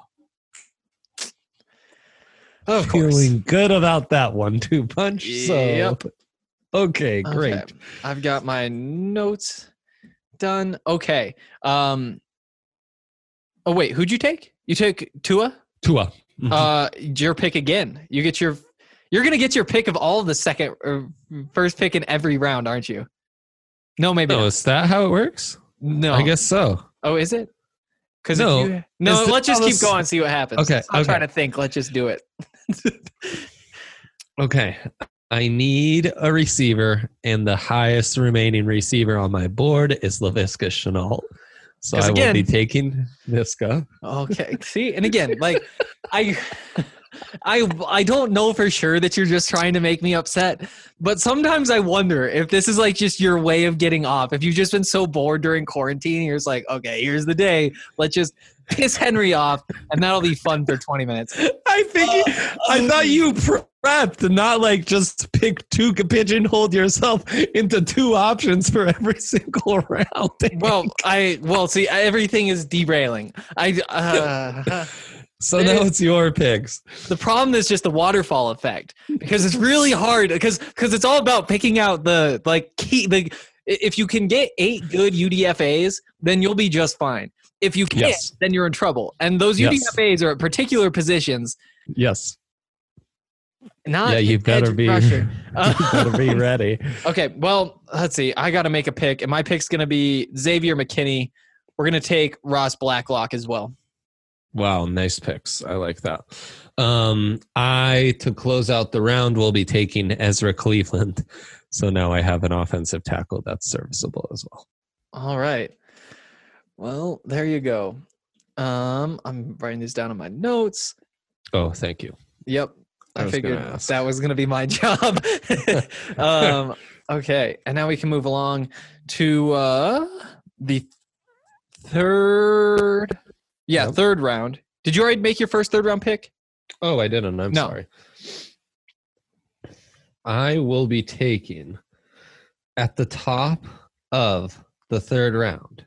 Speaker 2: Of course.
Speaker 3: Feeling good about that one, too, Punch. So,
Speaker 2: yep.
Speaker 3: Okay, great.
Speaker 2: Okay. I've got my notes done. Okay. Oh, wait. Who'd you take? You took Tua?
Speaker 3: Tua. Mm-hmm.
Speaker 2: Your pick again. You're going to get your pick of all of the second or first pick in every round, aren't you? No, maybe not.
Speaker 3: Is that how it works?
Speaker 2: No.
Speaker 3: I guess so.
Speaker 2: Oh, is it?
Speaker 3: No.
Speaker 2: Let's just keep going and see what happens.
Speaker 3: Okay.
Speaker 2: I'm trying to think. Let's just do it.
Speaker 3: Okay. I need a receiver, and the highest remaining receiver on my board is Laviska Shenault. So I will be taking Visca.
Speaker 2: Okay. See, and again, like I don't know for sure that you're just trying to make me upset, but sometimes I wonder if this is like just your way of getting off. If you've just been so bored during quarantine, you're just like, okay, here's the day. Let's just piss Henry off, and that'll be fun for 20 minutes.
Speaker 3: I thought you prepped, not like just pigeonholed yourself into 2 options for every single round.
Speaker 2: See, everything is derailing.
Speaker 3: So now it's your picks.
Speaker 2: The problem is just the waterfall effect, because it's really hard because it's all about picking out if you can get 8 good UDFAs, then you'll be just fine. If you can't, then you're in trouble. And those UDFAs are at particular positions.
Speaker 3: Yes.
Speaker 2: You
Speaker 3: better be
Speaker 2: rusher.
Speaker 3: You better be ready.
Speaker 2: Okay, well, let's see. I got to make a pick, and my pick's going to be Xavier McKinney. We're going to take Ross Blacklock as well.
Speaker 3: Wow, nice picks. I like that. To close out the round, will be taking Ezra Cleveland. So now I have an offensive tackle that's serviceable as well.
Speaker 2: All right. Well, there you go. I'm writing this down in my notes.
Speaker 3: Oh, thank you.
Speaker 2: Yep. I figured that was going to be my job. Okay. And now we can move along to the third. Yeah, yep. Third round. Did you already make your first third round pick?
Speaker 3: Oh, I didn't. I'm sorry. I will be taking at the top of the third round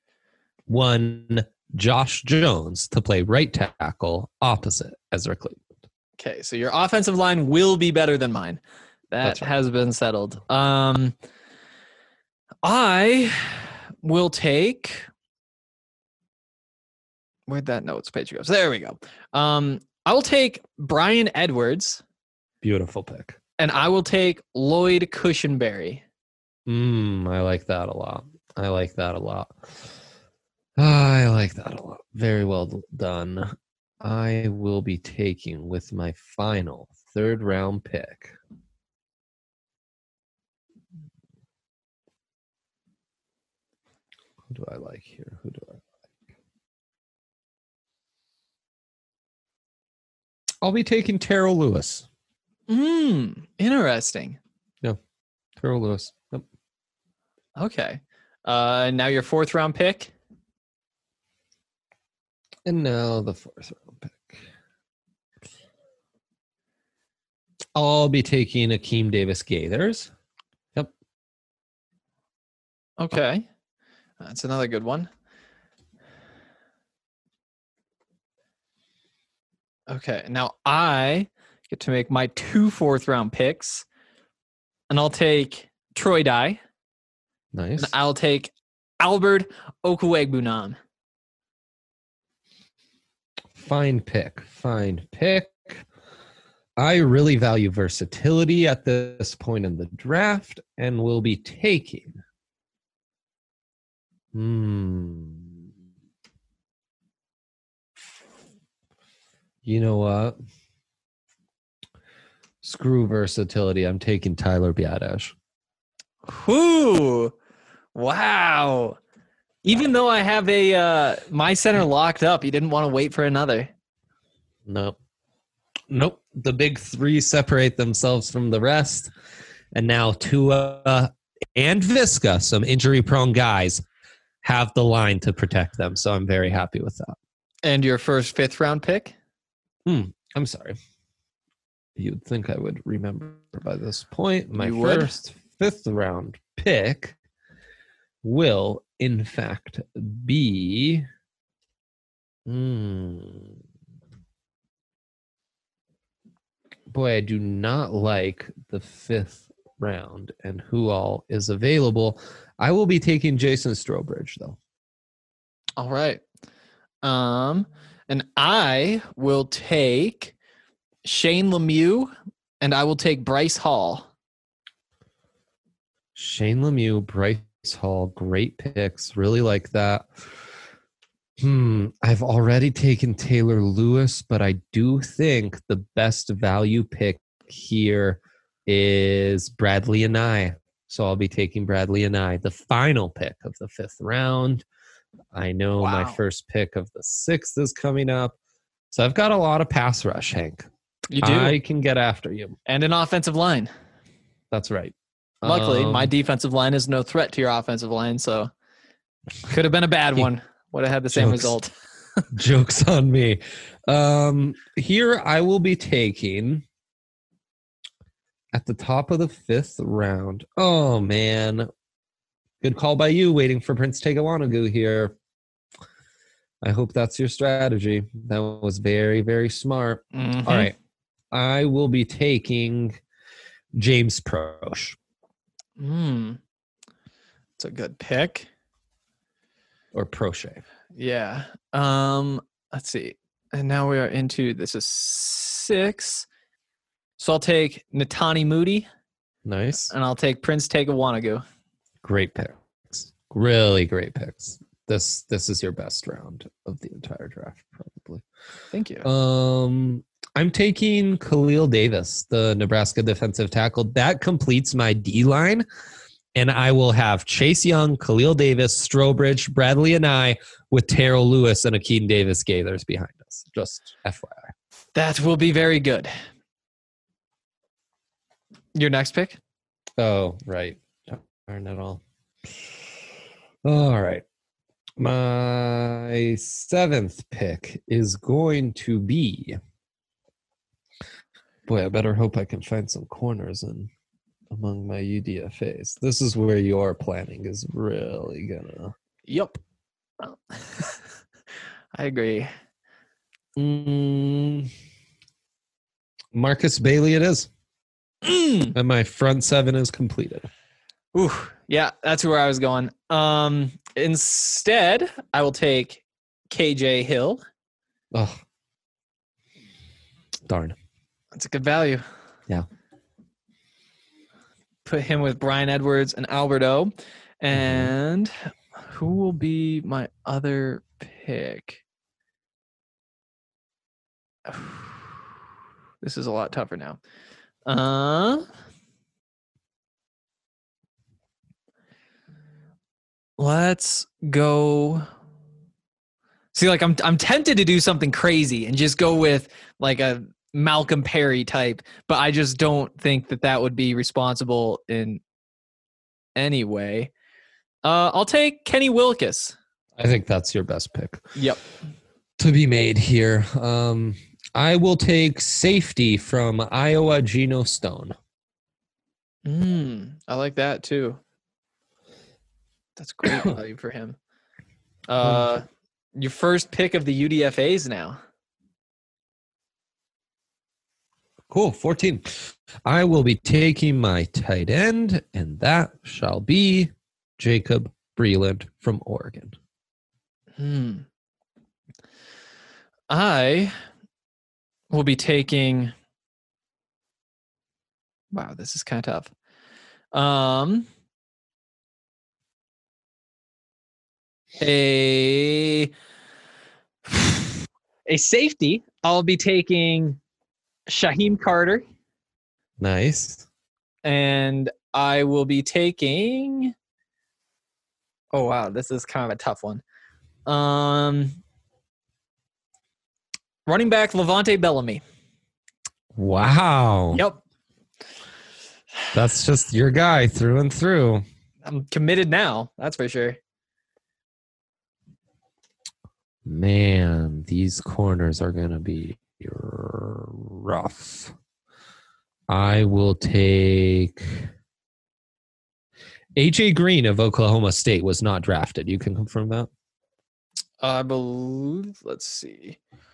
Speaker 3: Josh Jones to play right tackle opposite Ezra Cleveland.
Speaker 2: Okay, so your offensive line will be better than mine. That has been settled. I will take... Where'd that notes page go? So there we go. I will take Brian Edwards.
Speaker 3: Beautiful pick.
Speaker 2: And I will take Lloyd Cushenberry.
Speaker 3: I like that a lot. Very well done. I will be taking with my final third round pick. Who do I like here? I'll be taking Terrell Lewis.
Speaker 2: Interesting.
Speaker 3: Yeah, Terrell Lewis. Yep.
Speaker 2: Okay. Now your fourth round pick.
Speaker 3: And now the fourth round pick. I'll be taking Akeem Davis Gaithers. Yep.
Speaker 2: Okay. That's another good one. Okay, now I get to make my 2 fourth round picks, and I'll take Troy Dye.
Speaker 3: Nice.
Speaker 2: And I'll take Albert Okwuegbunam.
Speaker 3: Fine pick. I really value versatility at this point in the draft, and will be taking. You know what? Screw versatility. I'm taking Tyler Biadasz.
Speaker 2: Whoo! Wow. Even though I have my center locked up, you didn't want to wait for another.
Speaker 3: Nope. The big 3 separate themselves from the rest. And now Tua and Visca, some injury-prone guys, have the line to protect them. So I'm very happy with that.
Speaker 2: And your first 5th round pick?
Speaker 3: I'm sorry. You'd think I would remember by this point. My
Speaker 2: you
Speaker 3: first 5th round pick will, in fact, be... Boy, I do not like the 5th round and who all is available. I will be taking Jason Strowbridge, though.
Speaker 2: All right. And I will take Shane Lemieux, and I will take Bryce Hall.
Speaker 3: Shane Lemieux, Bryce Hall, great picks. Really like that. I've already taken Taylor Lewis, but I do think the best value pick here is Bradley Anae. So I'll be taking Bradley Anae, the final pick of the 5th round. I know my first pick of the 6th is coming up. So I've got a lot of pass rush, Hank.
Speaker 2: You do.
Speaker 3: I can get after you.
Speaker 2: And an offensive line.
Speaker 3: That's right.
Speaker 2: Luckily, my defensive line is no threat to your offensive line, so could have been a bad one. Would have had the same result.
Speaker 3: Joke's on me. Here I will be taking at the top of the 5th round. Oh, man. Good call by you, waiting for Prince Tegawanagu here. I hope that's your strategy. That was very, very smart.
Speaker 2: Mhm.
Speaker 3: All right. I will be taking James Proche.
Speaker 2: It's a good pick.
Speaker 3: Or Proche.
Speaker 2: Yeah. Let's see. And now we are into this is 6. So I'll take Natani Moody
Speaker 3: Nice.
Speaker 2: and I'll take Prince Tegawanagu.
Speaker 3: Great picks. Really great picks. This is your best round of the entire draft, probably.
Speaker 2: Thank you.
Speaker 3: I'm taking Khalil Davis, the Nebraska defensive tackle. That completes my D line, and I will have Chase Young, Khalil Davis, Strobridge, Bradley, and I with Terrell Lewis and Akeem Davis Gaithers behind us. Just FYI.
Speaker 2: That will be very good. Your next pick?
Speaker 3: Oh, right. Darn it all. All right. My 7th pick is going to be. Boy, I better hope I can find some corners among my UDFAs. This is where your planning is really gonna.
Speaker 2: Yep. I agree.
Speaker 3: Marcus Bailey it is. And my front 7 is completed.
Speaker 2: Ooh, yeah, that's where I was going. Instead, I will take KJ Hill.
Speaker 3: Oh, darn.
Speaker 2: That's a good value.
Speaker 3: Yeah.
Speaker 2: Put him with Brian Edwards and Alberto. And who will be my other pick? This is a lot tougher now. Let's go. See, like I'm tempted to do something crazy and just go with like a Malcolm Perry type, but I just don't think that would be responsible in any way. I'll take Kenny Wilkes.
Speaker 3: I think that's your best pick.
Speaker 2: Yep.
Speaker 3: To be made here. I will take safety from Iowa, Geno Stone.
Speaker 2: I like that too. That's great value for him. Your first pick of the UDFAs now.
Speaker 3: Cool, 14. I will be taking my tight end, and that shall be Jacob Breland from Oregon.
Speaker 2: I will be taking. Wow, this is kind of tough. A safety. I'll be taking Shaheem Carter.
Speaker 3: Nice.
Speaker 2: And I will be taking. Oh wow, this is kind of a tough one. Running back Levante Bellamy.
Speaker 3: Wow.
Speaker 2: Yep.
Speaker 3: That's just your guy through and through.
Speaker 2: I'm committed now. That's for sure.
Speaker 3: Man, these corners are going to be rough. I will take AJ Green of Oklahoma State was not drafted. You can confirm that?
Speaker 2: I believe, let's see.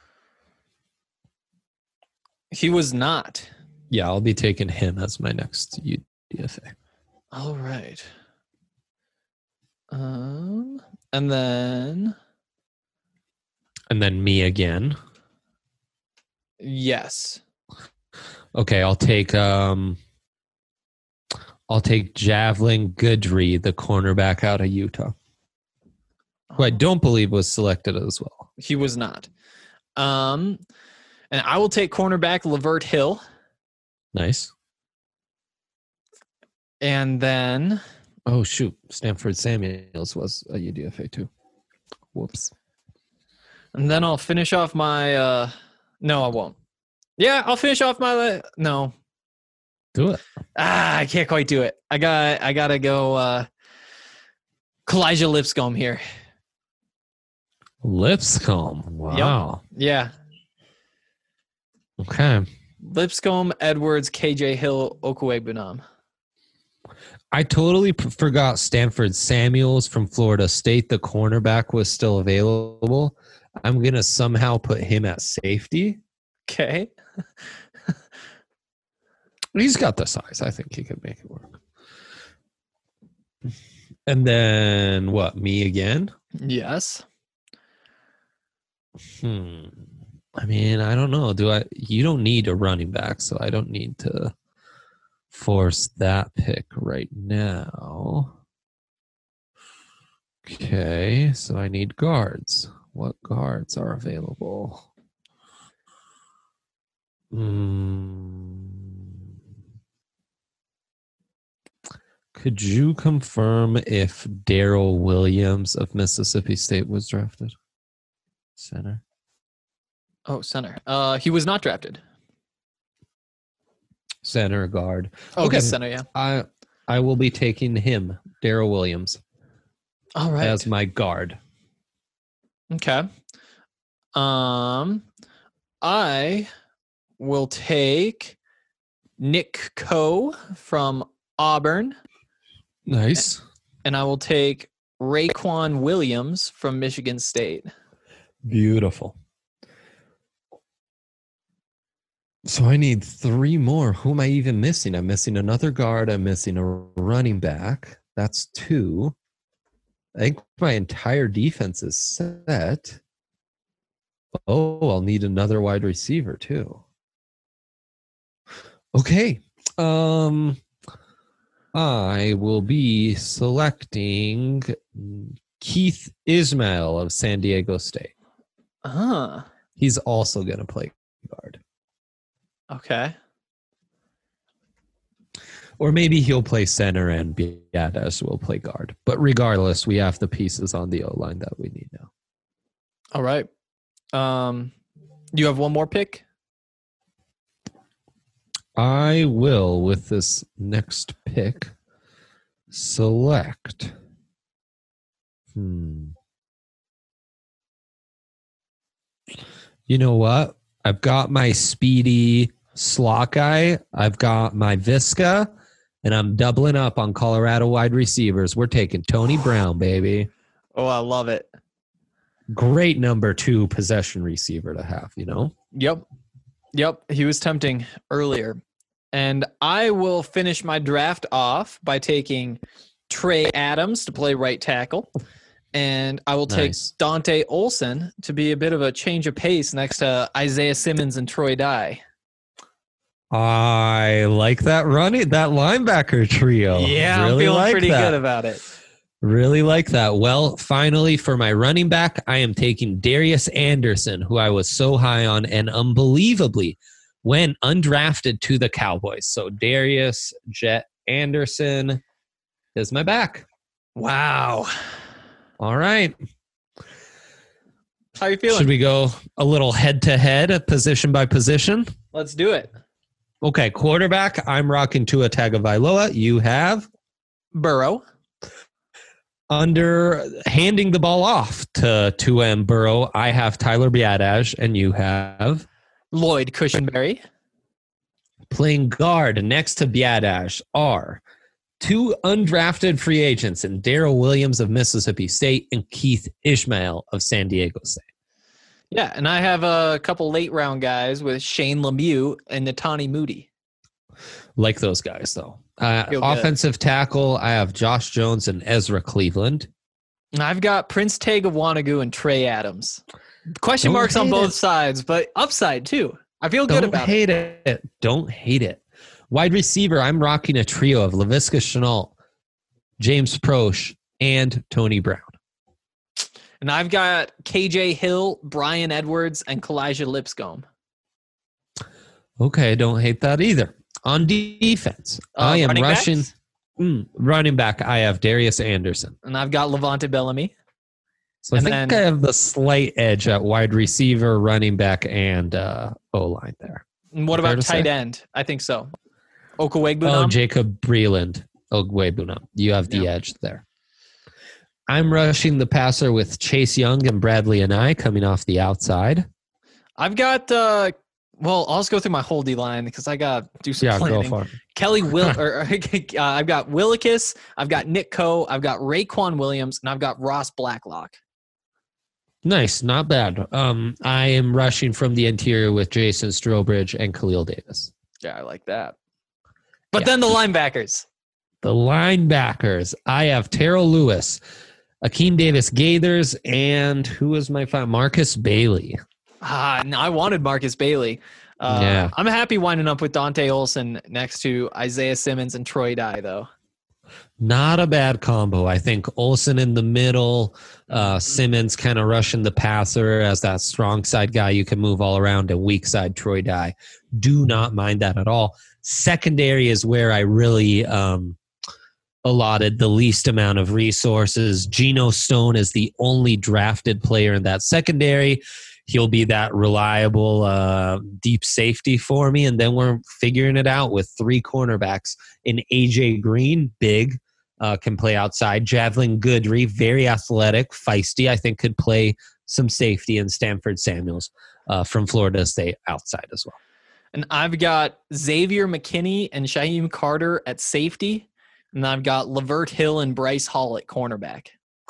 Speaker 2: He was not.
Speaker 3: Yeah, I'll be taking him as my next UDFA.
Speaker 2: All right. And then
Speaker 3: me again.
Speaker 2: Yes.
Speaker 3: Okay, I'll take Javelin Goodry, the cornerback out of Utah, who I don't believe was selected as well.
Speaker 2: He was not. And I will take cornerback Lavert Hill.
Speaker 3: Nice.
Speaker 2: And then
Speaker 3: Oh shoot, Stanford Samuels was a UDFA too. Whoops.
Speaker 2: And then I'll finish off my no, I won't. Yeah, I'll finish off my no.
Speaker 3: Do it.
Speaker 2: I can't quite do it. I gotta go Kalijah Lipscomb here.
Speaker 3: Lipscomb. Wow.
Speaker 2: Yeah.
Speaker 3: Okay.
Speaker 2: Lipscomb, Edwards, KJ Hill, Okwuegbunam.
Speaker 3: I totally forgot Stanford Samuels from Florida State. The cornerback was still available. I'm going to somehow put him at safety.
Speaker 2: Okay.
Speaker 3: He's got the size. I think he could make it work. And then what? Me again?
Speaker 2: Yes.
Speaker 3: I mean, I don't know. You don't need a running back, so I don't need to force that pick right now. Okay, so I need guards. What guards are available? Could you confirm if Daryl Williams of Mississippi State was drafted? Center.
Speaker 2: Oh, center. He was not drafted.
Speaker 3: Center guard.
Speaker 2: Oh, okay, center. Yeah.
Speaker 3: I will be taking him, Daryl Williams,
Speaker 2: All right.
Speaker 3: as my guard.
Speaker 2: Okay. I will take Nick Coe from Auburn.
Speaker 3: Nice.
Speaker 2: And I will take Raekwon Williams from Michigan State.
Speaker 3: Beautiful. So I need 3 more. Who am I even missing? I'm missing another guard. I'm missing a running back. That's 2. I think my entire defense is set. Oh, I'll need another wide receiver too. Okay. I will be selecting Keith Ismail of San Diego State. He's also going to play guard.
Speaker 2: Okay.
Speaker 3: Or maybe he'll play center and Biadasz will play guard. But regardless, we have the pieces on the O-line that we need now.
Speaker 2: All right. You have one more pick?
Speaker 3: I will, with this next pick, select. You know what? I've got my speedy slot guy. I've got my Visca, and I'm doubling up on Colorado wide receivers. We're taking Tony Brown, baby.
Speaker 2: Oh, I love it.
Speaker 3: Great number 2 possession receiver to have, you know?
Speaker 2: Yep. He was tempting earlier. And I will finish my draft off by taking Trey Adams to play right tackle. And I will take Dante Olson to be a bit of a change of pace next to Isaiah Simmons and Troy Dye.
Speaker 3: I like that linebacker trio.
Speaker 2: Yeah, really I'm feeling pretty good about it.
Speaker 3: Really like that. Well, finally, for my running back, I am taking Darius Anderson, who I was so high on and unbelievably went undrafted to the Cowboys. So Darius Jet Anderson is my back.
Speaker 2: Wow.
Speaker 3: All right.
Speaker 2: How are you feeling?
Speaker 3: Should we go a little head-to-head, position by position?
Speaker 2: Let's do it.
Speaker 3: Okay, quarterback, I'm rocking Tua Tagovailoa. You have?
Speaker 2: Burrow.
Speaker 3: Under handing the ball off to Tua and Burrow, I have Tyler Biadasz, and you have?
Speaker 2: Lloyd Cushenberry.
Speaker 3: Playing guard next to Biadasz are 2 undrafted free agents in Daryl Williams of Mississippi State and Keith Ismail of San Diego State.
Speaker 2: Yeah, and I have a couple late round guys with Shane Lemieux and Netani Moody.
Speaker 3: Like those guys, though. Offensive tackle, I have Josh Jones and Ezra Cleveland.
Speaker 2: And I've got Prince Tega-Wanogho and Trey Adams. Question marks on both sides, but upside too. I feel good about it.
Speaker 3: Don't hate it. Wide receiver, I'm rocking a trio of Laviska Shenault, James Proche, and Tony Brown.
Speaker 2: And I've got KJ Hill, Brian Edwards, and Kalijah Lipscomb.
Speaker 3: Okay, don't hate that either. On defense, I am rushing running back. I have Darius Anderson.
Speaker 2: And I've got Levante Bellamy.
Speaker 3: So I think I have the slight edge at wide receiver, running back, and O-line there.
Speaker 2: And what
Speaker 3: Fair
Speaker 2: about
Speaker 3: to
Speaker 2: tight
Speaker 3: say?
Speaker 2: end? I think so. Okawegbu.
Speaker 3: Oh, Jacob Breland. Ogwebuna. You have the edge there. I'm rushing the passer with Chase Young and Bradley and I coming off the outside.
Speaker 2: I've got I'll just go through my whole D line because I got to do some
Speaker 3: Yeah,
Speaker 2: planning.
Speaker 3: go for it.
Speaker 2: Kelly I've got Willikis, I've got Nick Coe, I've got Raekwon Williams, and I've got Ross Blacklock.
Speaker 3: Nice, not bad. I am rushing from the interior with Jason Strobridge and Khalil Davis.
Speaker 2: Yeah, I like that. But then the linebackers.
Speaker 3: The linebackers. I have Terrell Lewis, Akeem Davis Gaithers, and who was my five? Marcus Bailey.
Speaker 2: No, I wanted Marcus Bailey.
Speaker 3: Yeah.
Speaker 2: I'm happy winding up with Dante Olson next to Isaiah Simmons and Troy Dye, though.
Speaker 3: Not a bad combo. I think Olsen in the middle, Simmons kind of rushing the passer as that strong side guy you can move all around, and weak side Troy Dye. Do not mind that at all. Secondary is where I really allotted the least amount of resources. Geno Stone is the only drafted player in that secondary. He'll be that reliable deep safety for me. And then we're figuring it out with three cornerbacks. In AJ Green, big, can play outside. Javelin Goodry, very athletic, feisty. I think could play some safety. And Stanford Samuels from Florida State outside as well.
Speaker 2: And I've got Xavier McKinney and Shaheem Carter at safety. And I've got Lavert Hill and Bryce Hall at cornerback.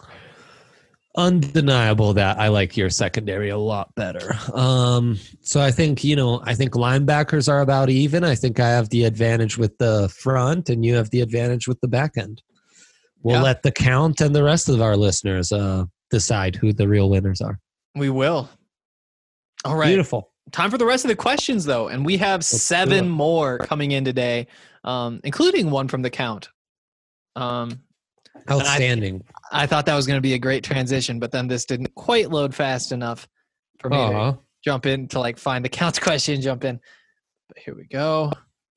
Speaker 3: Undeniable that I like your secondary a lot better. So I think linebackers are about even. I think I have the advantage with the front and you have the advantage with the back end. We'll let the count and the rest of our listeners decide who the real winners are.
Speaker 2: We will. All right.
Speaker 3: Beautiful.
Speaker 2: Time for the rest of the questions, though. And we have 7 more coming in today, including one from the count.
Speaker 3: Outstanding.
Speaker 2: I thought that was going to be a great transition, but then this didn't quite load fast enough for me to jump in to find the count question, jump in. But here we go.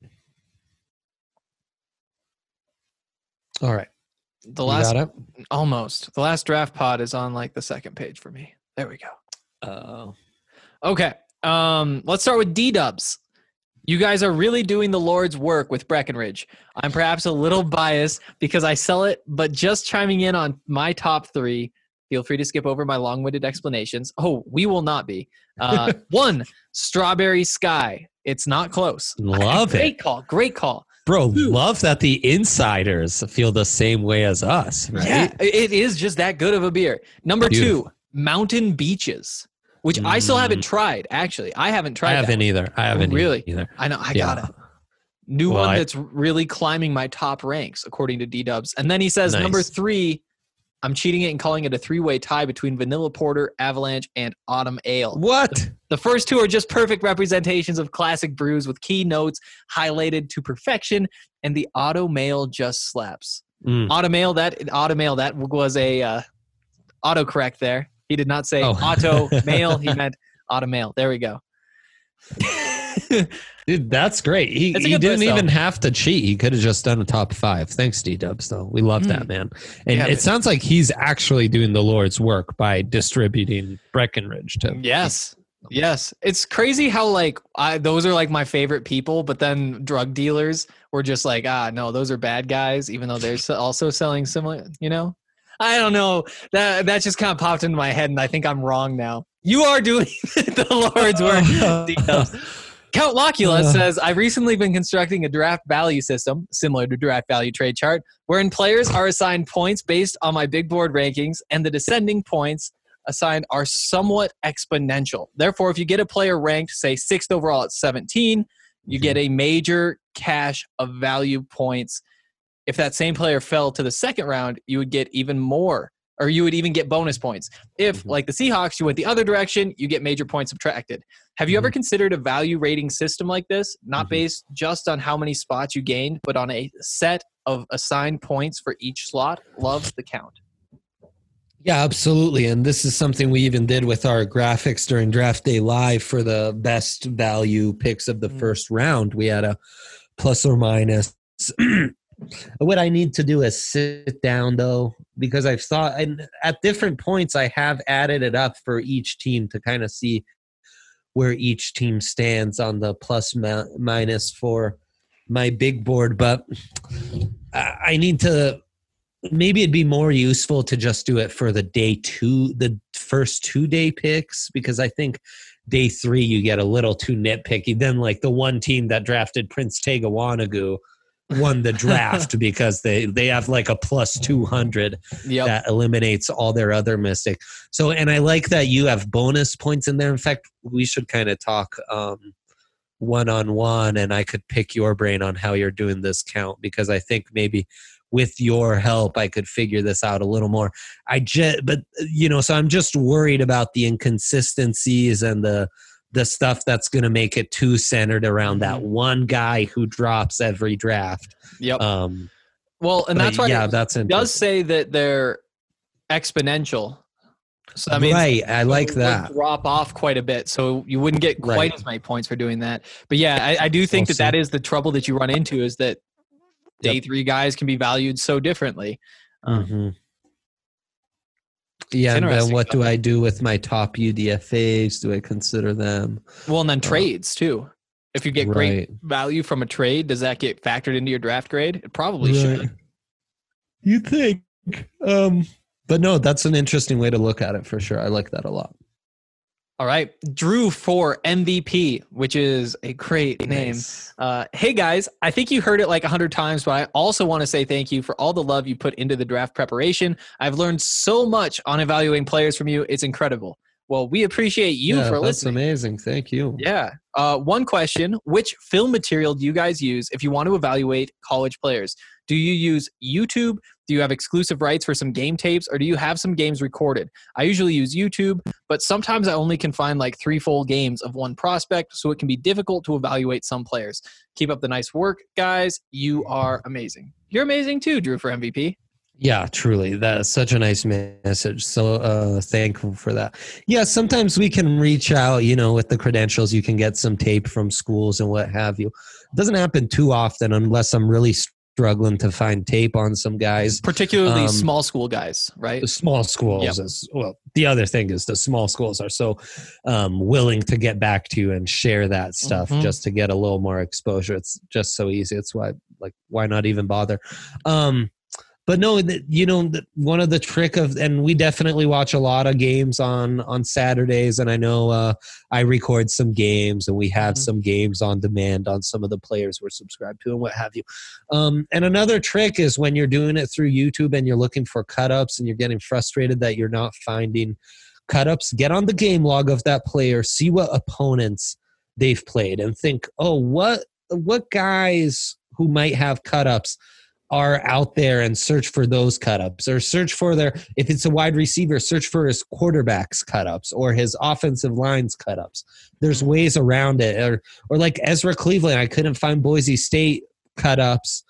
Speaker 3: All right.
Speaker 2: The last draft pod is on the second page for me. There we go. Okay. Let's start with D-Dubs. You guys are really doing the Lord's work with Breckenridge. I'm perhaps a little biased because I sell it, but just chiming in on my top 3. Feel free to skip over my long-winded explanations. Oh, we will not be. 1, Strawberry Sky. It's not close.
Speaker 3: Love it.
Speaker 2: Great call.
Speaker 3: Bro, love that the insiders feel the same way as us, right?
Speaker 2: Yeah, it is just that good of a beer. Number
Speaker 3: Beautiful.
Speaker 2: 2, Mountain Beaches, which I still haven't tried, actually. I haven't tried
Speaker 3: I haven't either.
Speaker 2: Really?
Speaker 3: Either.
Speaker 2: I know. I got it. New one that's really climbing my top ranks, according to D-Dubs. And then he says,
Speaker 3: Nice.
Speaker 2: Number 3, I'm cheating it and calling it a 3-way tie between Vanilla Porter, Avalanche, and Autumn Ale.
Speaker 3: What?
Speaker 2: The first 2 are just perfect representations of classic brews with key notes highlighted to perfection, and the Auto Mail just slaps. Auto Mail, that was a autocorrect there. He did not say auto mail. He meant auto mail. There we go.
Speaker 3: Dude, that's great. He didn't even have to cheat. He could have just done a top 5. Thanks, D-Dubs, though. We love that, man. And it sounds like he's actually doing the Lord's work by distributing Breckenridge to.
Speaker 2: Yes. It's crazy how those are my favorite people, but then drug dealers were just no, those are bad guys, even though they're also selling similar, I don't know. That just kind of popped into my head, and I think I'm wrong now. You are doing the Lord's work. Count Locula says, I've recently been constructing a draft value system, similar to draft value trade chart, wherein players are assigned points based on my big board rankings, and the descending points assigned are somewhat exponential. Therefore, if you get a player ranked, say 6th overall at 17, you get a major cache of value points. If that same player fell to the second round, you would get even more, or you would even get bonus points. If, like the Seahawks, you went the other direction, you get major points subtracted. Have you ever considered a value rating system like this, not based just on how many spots you gained, but on a set of assigned points for each slot? Love the count.
Speaker 3: Yeah, absolutely. And this is something we even did with our graphics during Draft Day Live for the best value picks of the first round. We had a plus or minus. What I need to do is sit down, though, because I've thought, and at different points, I have added it up for each team to kind of see where each team stands on the plus minus for my big board, but I need to. Maybe it'd be more useful to just do it for the first 2-day picks, because I think day 3 you get a little too nitpicky. Then like the one team that drafted Prince Tega Wanagoo won the draft because they have like a plus 200 that eliminates all their other mistakes. So, and I like that you have bonus points in there. In fact, we should kind of talk one-on-one, and I could pick your brain on how you're doing this count, because I think maybe with your help, I could figure this out a little more. So I'm just worried about the inconsistencies and the stuff that's going to make it too centered around that one guy who drops every draft.
Speaker 2: Yep. Well, and that's why it does say that they're exponential. So that means
Speaker 3: right. I like that.
Speaker 2: Drop off quite a bit, so you wouldn't get quite as many points for doing that. But yeah, I do think that is the trouble that you run into, is that day 3 guys can be valued so differently.
Speaker 3: Yeah, and then what do I do with my top UDFAs? Do I consider them?
Speaker 2: Well, and then trades too. If you get great value from a trade, does that get factored into your draft grade? It probably should.
Speaker 3: You think. But no, that's an interesting way to look at it for sure. I like that a lot.
Speaker 2: All right. Drew for MVP, which is a great name. Hey, guys, I think you heard it like 100 times, but I also want to say thank you for all the love you put into the draft preparation. I've learned so much on evaluating players from you. It's incredible. Well, we appreciate you for listening.
Speaker 3: That's amazing. Thank you.
Speaker 2: Yeah. One question. Which film material do you guys use if you want to evaluate college players? Do you use YouTube? Do you have exclusive rights for some game tapes, or do you have some games recorded? I usually use YouTube, but sometimes I only can find like 3 full games of one prospect, so it can be difficult to evaluate some players. Keep up the nice work, guys. You are amazing. You're amazing too, Drew, for MVP.
Speaker 3: Yeah, truly. That's such a nice message. So thankful for that. Yeah, sometimes we can reach out, with the credentials. You can get some tape from schools and what have you. It doesn't happen too often unless I'm really struggling to find tape on some guys.
Speaker 2: Particularly small school guys, right?
Speaker 3: The small schools as well. The other thing is the small schools are so willing to get back to you and share that stuff just to get a little more exposure. It's just so easy. It's why not even bother? But no, one of the trick and we definitely watch a lot of games on Saturdays, and I know I record some games, and we have some games on demand on some of the players we're subscribed to and what have you. And another trick is when you're doing it through YouTube and you're looking for cut-ups and you're getting frustrated that you're not finding cut-ups, get on the game log of that player, see what opponents they've played, and think, what guys who might have cut-ups are out there, and search for those cut-ups, or search for if it's a wide receiver, search for his quarterback's cut-ups or his offensive line's cut-ups. There's ways around it. Or like Ezra Cleveland, I couldn't find Boise State cut-ups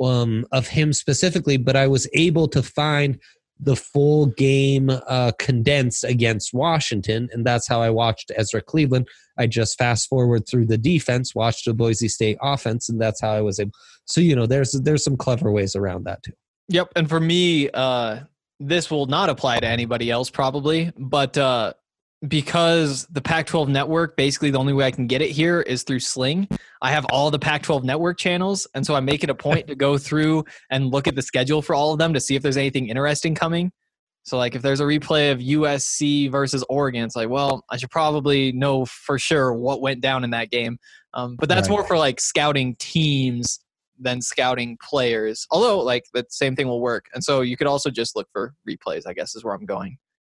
Speaker 3: of him specifically, but I was able to find the full game condensed against Washington, and that's how I watched Ezra Cleveland. I just fast forward through the defense, watched the Boise State offense, and that's how I was able. So there's some clever ways around that too.
Speaker 2: Yep, and for me, this will not apply to anybody else probably, but because the Pac-12 network, basically the only way I can get it here is through Sling. I have all the Pac-12 network channels, and so I make it a point to go through and look at the schedule for all of them to see if there's anything interesting coming. So like if there's a replay of USC versus Oregon, it's like, well, I should probably know for sure what went down in that game. But that's more for like scouting teams than scouting players. Although like the same thing will work. And so you could also just look for replays, I guess is where I'm going.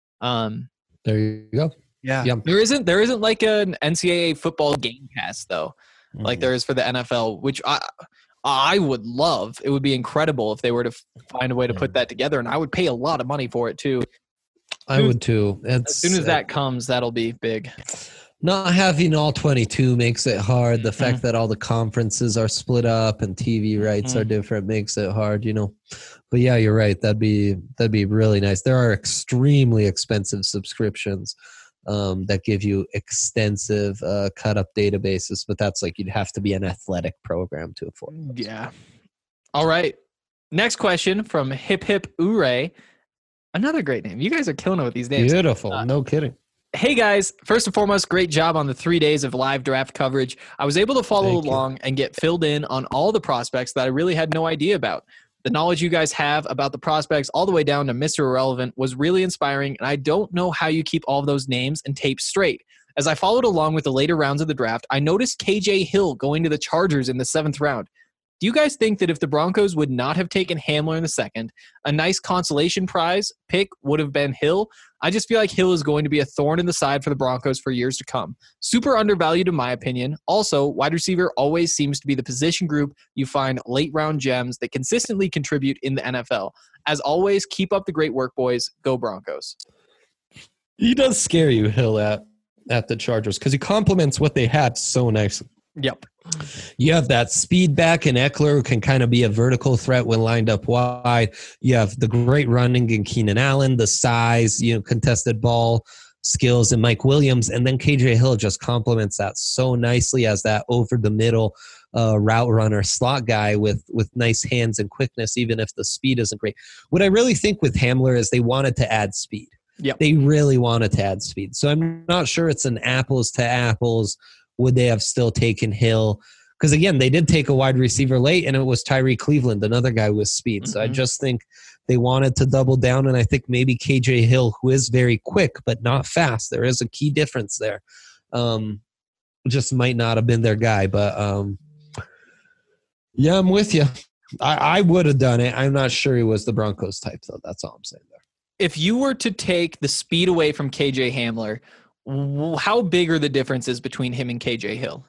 Speaker 3: There you go.
Speaker 2: Yeah. There isn't like an NCAA football game pass though, like there is for the NFL, which I would love. It would be incredible if they were to find a way to put that together, and I would pay a lot of money for it too.
Speaker 3: I would too.
Speaker 2: As soon as that comes, that'll be big.
Speaker 3: Not having all 22 makes it hard. The fact that all the conferences are split up and TV rights are different makes it hard, But yeah, you're right. That'd be really nice. There are extremely expensive subscriptions that give you extensive cut-up databases, but that's like you'd have to be an athletic program to afford those.
Speaker 2: Yeah. All right. Next question from Hip Hip Ure. Another great name. You guys are killing it with these names.
Speaker 3: Beautiful. No kidding.
Speaker 2: Hey guys, first and foremost, great job on the 3 days of live draft coverage. I was able to follow
Speaker 3: Thank you.
Speaker 2: along and get filled in on all the prospects that I really had no idea about. The knowledge you guys have about the prospects all the way down to Mr. Irrelevant was really inspiring, and I don't know how you keep all of those names and tapes straight. As I followed along with the later rounds of the draft, I noticed KJ Hill going to the Chargers in the 7th round. Do you guys think that if the Broncos would not have taken Hamler in the 2nd, a nice consolation prize pick would have been Hill? I just feel like Hill is going to be a thorn in the side for the Broncos for years to come. Super undervalued in my opinion. Also, wide receiver always seems to be the position group you find late round gems that consistently contribute in the NFL. As always, keep up the great work, boys. Go Broncos.
Speaker 3: He does scare you, Hill, at the Chargers because he complements what they had so nicely.
Speaker 2: Yep.
Speaker 3: You have that speed back in Eckler who can kind of be a vertical threat when lined up wide. You have the great running in Keenan Allen, the size, contested ball skills in Mike Williams. And then KJ Hill just complements that so nicely as that over the middle route runner slot guy with nice hands and quickness, even if the speed isn't great. What I really think with Hamler is they wanted to add speed.
Speaker 2: Yep.
Speaker 3: They really wanted to add speed. So I'm not sure it's an apples to apples. Would they have still taken Hill? Because, again, they did take a wide receiver late, and it was Tyree Cleveland, another guy with speed. So I just think they wanted to double down, and I think maybe KJ Hill, who is very quick but not fast, there is a key difference there, just might not have been their guy. But, yeah, I'm with you. I would have done it. I'm not sure he was the Broncos type, though. That's all I'm saying there.
Speaker 2: If you were to take the speed away from KJ Hamler, how big are the differences between him and KJ Hill?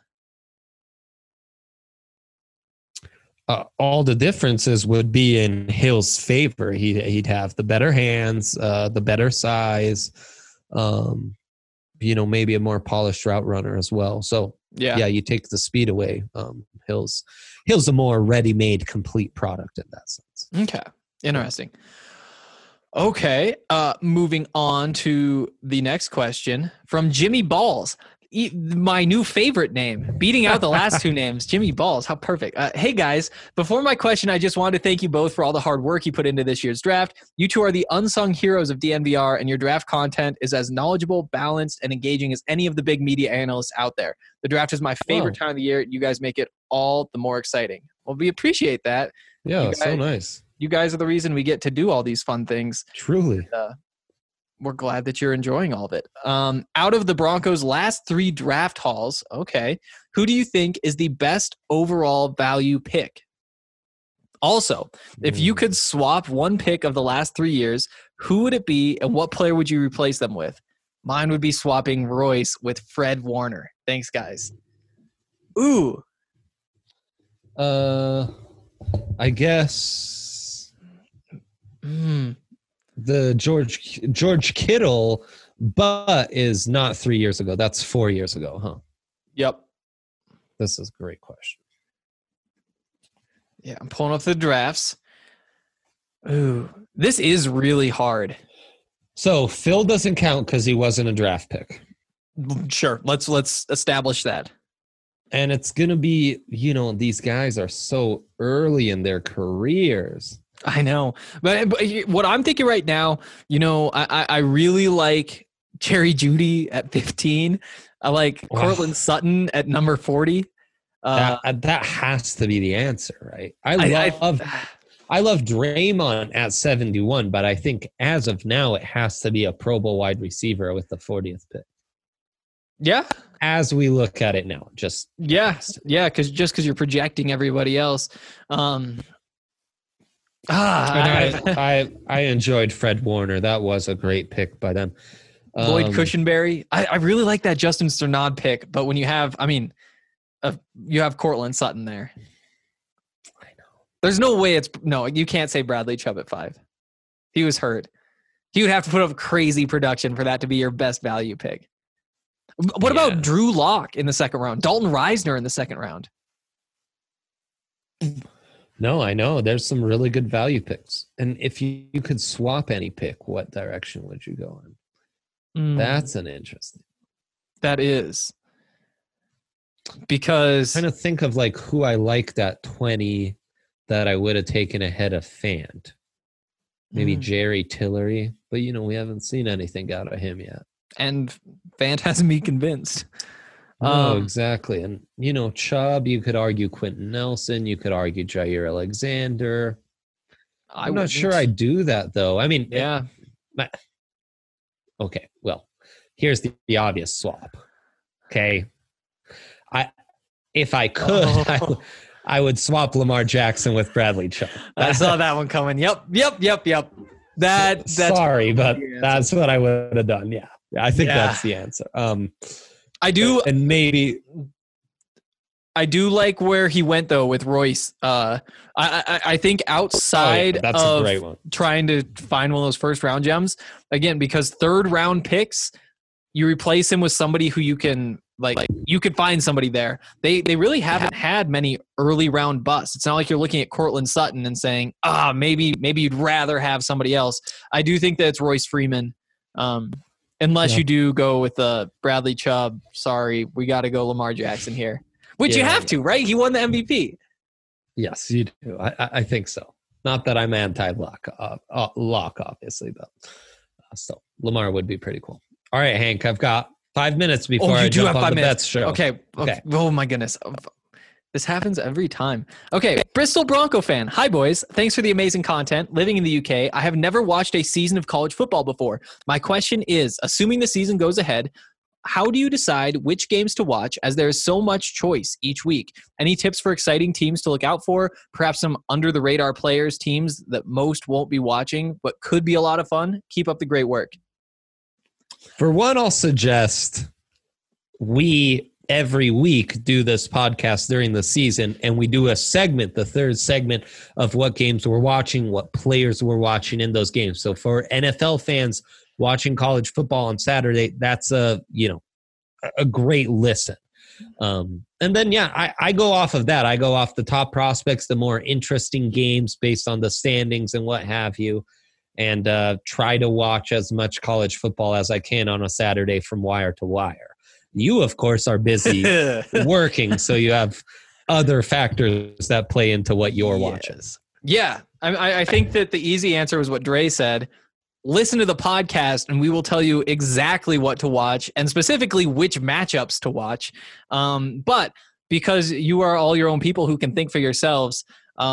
Speaker 3: All the differences would be in Hill's favor. He'd have the better hands, the better size, maybe a more polished route runner as well. So yeah, you take the speed away. Hill's a more ready-made, complete product in that sense.
Speaker 2: Okay, interesting. Okay, moving on to the next question from Jimmy Balls. My new favorite name, beating out the last two names. Jimmy Balls, how perfect. Hey guys, before my question, I just wanted to thank you both for all the hard work you put into this year's draft. You two are the unsung heroes of DNVR, and your draft content is as knowledgeable, balanced, and engaging as any of the big media analysts out there. The draft is my favorite time of the year. You guys make it all the more exciting. Well, we appreciate that.
Speaker 3: Yeah, so nice.
Speaker 2: You guys are the reason we get to do all these fun things.
Speaker 3: Truly.
Speaker 2: We're glad that you're enjoying all of it. Out of the Broncos' last 3 draft hauls, okay, who do you think is the best overall value pick? Also, if you could swap one pick of the last 3 years, who would it be and what player would you replace them with? Mine would be swapping Royce with Fred Warner. Thanks, guys. Ooh.
Speaker 3: I guess the George Kittle, but is not 3 years ago. That's 4 years ago, huh?
Speaker 2: Yep.
Speaker 3: This is a great question.
Speaker 2: Yeah, I'm pulling up the drafts. Ooh, this is really hard.
Speaker 3: So Phil doesn't count because he wasn't a draft pick.
Speaker 2: Sure, let's establish that.
Speaker 3: And it's going to be, these guys are so early in their careers.
Speaker 2: I know. But what I'm thinking right now, I really like Jerry Jeudy at 15. I like Cortland Sutton at number 40.
Speaker 3: That has to be the answer, right? I love Draymond at 71, but I think as of now, it has to be a Pro Bowl wide receiver with the 40th pick.
Speaker 2: Yeah.
Speaker 3: As we look at it now,
Speaker 2: because you're projecting everybody else.
Speaker 3: I enjoyed Fred Warner. That was a great pick by them.
Speaker 2: Lloyd Cushenberry. I really like that Justin Strnad pick, but when you have, you have Cortland Sutton there.
Speaker 3: I know.
Speaker 2: There's no way you can't say Bradley Chubb at 5. He was hurt. He would have to put up crazy production for that to be your best value pick. What about Drew Lock in the 2nd round? Dalton Reisner in the 2nd round?
Speaker 3: No, I know. There's some really good value picks. And if you could swap any pick, what direction would you go in? That's an interesting.
Speaker 2: That is. Because
Speaker 3: I'm trying to think of who I liked at 20 that I would have taken ahead of Fant. Maybe Jerry Tillery. But, we haven't seen anything out of him yet.
Speaker 2: And Fant hasn't me convinced.
Speaker 3: No, exactly. And, Chubb, you could argue Quentin Nelson. You could argue Jair Alexander. I'm not sure I do that, though. I mean,
Speaker 2: yeah.
Speaker 3: Okay, well, here's the obvious swap. Okay. If I could, I would swap Lamar Jackson with Bradley Chubb.
Speaker 2: I saw that one coming. Yep. That's
Speaker 3: sorry, but that's what I would have done. Yeah. I think that's the answer.
Speaker 2: I do.
Speaker 3: And maybe
Speaker 2: I do like where he went though with Royce. I think outside
Speaker 3: that's
Speaker 2: of
Speaker 3: a great one.
Speaker 2: Trying to find one of those first round gems again, because third round picks, you replace him with somebody who you can you could find somebody there. They really haven't had many early round busts. It's not like you're looking at Cortland Sutton and saying, maybe you'd rather have somebody else. I do think that it's Royce Freeman. Unless you do go with Bradley Chubb. Sorry, we got to go Lamar Jackson here. Which you have to, right? He won the MVP.
Speaker 3: Yes, you do. I think so. Not that I'm anti-lock, obviously, but still, Lamar would be pretty cool. All right, Hank, I've got 5 minutes before I jump on the Bets show.
Speaker 2: Okay. Oh, my goodness. This happens every time. Okay, Bristol Bronco fan. Hi, boys. Thanks for the amazing content. Living in the UK, I have never watched a season of college football before. My question is, assuming the season goes ahead, how do you decide which games to watch as there is so much choice each week? Any tips for exciting teams to look out for? Perhaps some under-the-radar players, teams that most won't be watching, but could be a lot of fun? Keep up the great work.
Speaker 3: For one, I'll suggest we every week do this podcast during the season, and we do a segment, the third segment of what games we're watching, what players we're watching in those games. So for NFL fans watching college football on Saturday, that's a great listen. And then, I go off of that. I go off the top prospects, the more interesting games based on the standings and what have you, and try to watch as much college football as I can on a Saturday from wire to wire. You, of course, are busy working, so you have other factors that play into what you're watching.
Speaker 2: Yeah, I think that the easy answer was what Dre said. Listen to the podcast, and we will tell you exactly what to watch, and specifically which matchups to watch. But because you are all your own people who can think for yourselves,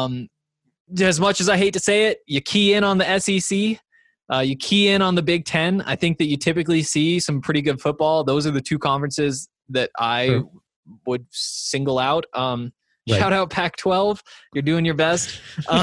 Speaker 2: as much as I hate to say it, you key in on the SEC. You key in on the Big Ten. I think that you typically see some pretty good football. Those are the two conferences that I would single out. Shout out Pac-12. You're doing your best.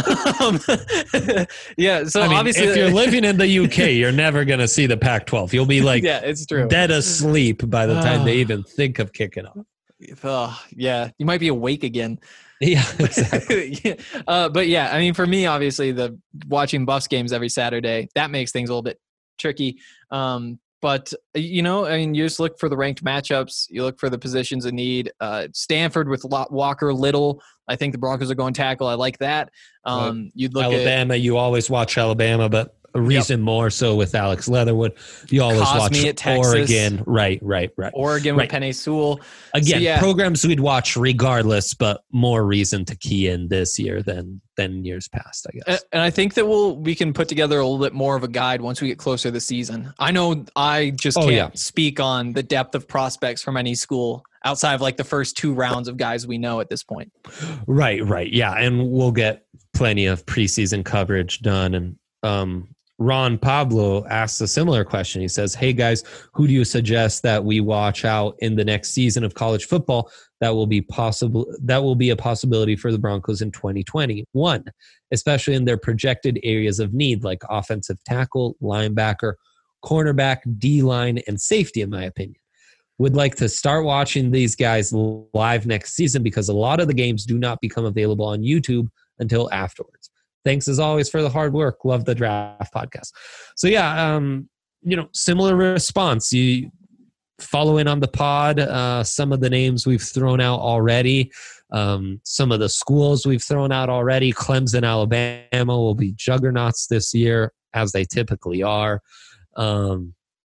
Speaker 2: Yeah. So obviously,
Speaker 3: if you're living in the UK, you're never going to see the Pac-12. You'll be
Speaker 2: it's true.
Speaker 3: Dead asleep by the time they even think of kicking off.
Speaker 2: Yeah. You might be awake again.
Speaker 3: Yeah, exactly.
Speaker 2: But yeah, I mean, for me, obviously, the watching Buffs games every Saturday, that makes things a little bit tricky. But, you just look for the ranked matchups. You look for the positions of need. Stanford with Walker Little. I think the Broncos are going tackle. I like that. You'd look
Speaker 3: Alabama. You always watch Alabama, but a reason more so with Alex Leatherwood. You always
Speaker 2: Cosme
Speaker 3: watch
Speaker 2: at Texas.
Speaker 3: Oregon. Right.
Speaker 2: Oregon with Penei Sewell.
Speaker 3: Again, programs we'd watch regardless, but more reason to key in this year than years past, I guess.
Speaker 2: And I think that we can put together a little bit more of a guide once we get closer to the season. I know I just can't speak on the depth of prospects from any school outside of like the first 2 rounds of guys we know at this point.
Speaker 3: Right. Yeah. And we'll get plenty of preseason coverage done. And Ron Pablo asks a similar question. He says, hey guys, who do you suggest that we watch out in the next season of college football that will be a possibility for the Broncos in 2021, especially in their projected areas of need like offensive tackle, linebacker, cornerback, D-line, and safety, in my opinion. Would like to start watching these guys live next season because a lot of the games do not become available on YouTube until afterwards. Thanks as always for the hard work. Love the Draft Podcast. So similar response. You follow in on the pod. Some of the names we've thrown out already. Some of the schools we've thrown out already. Clemson, Alabama will be juggernauts this year, as they typically are. I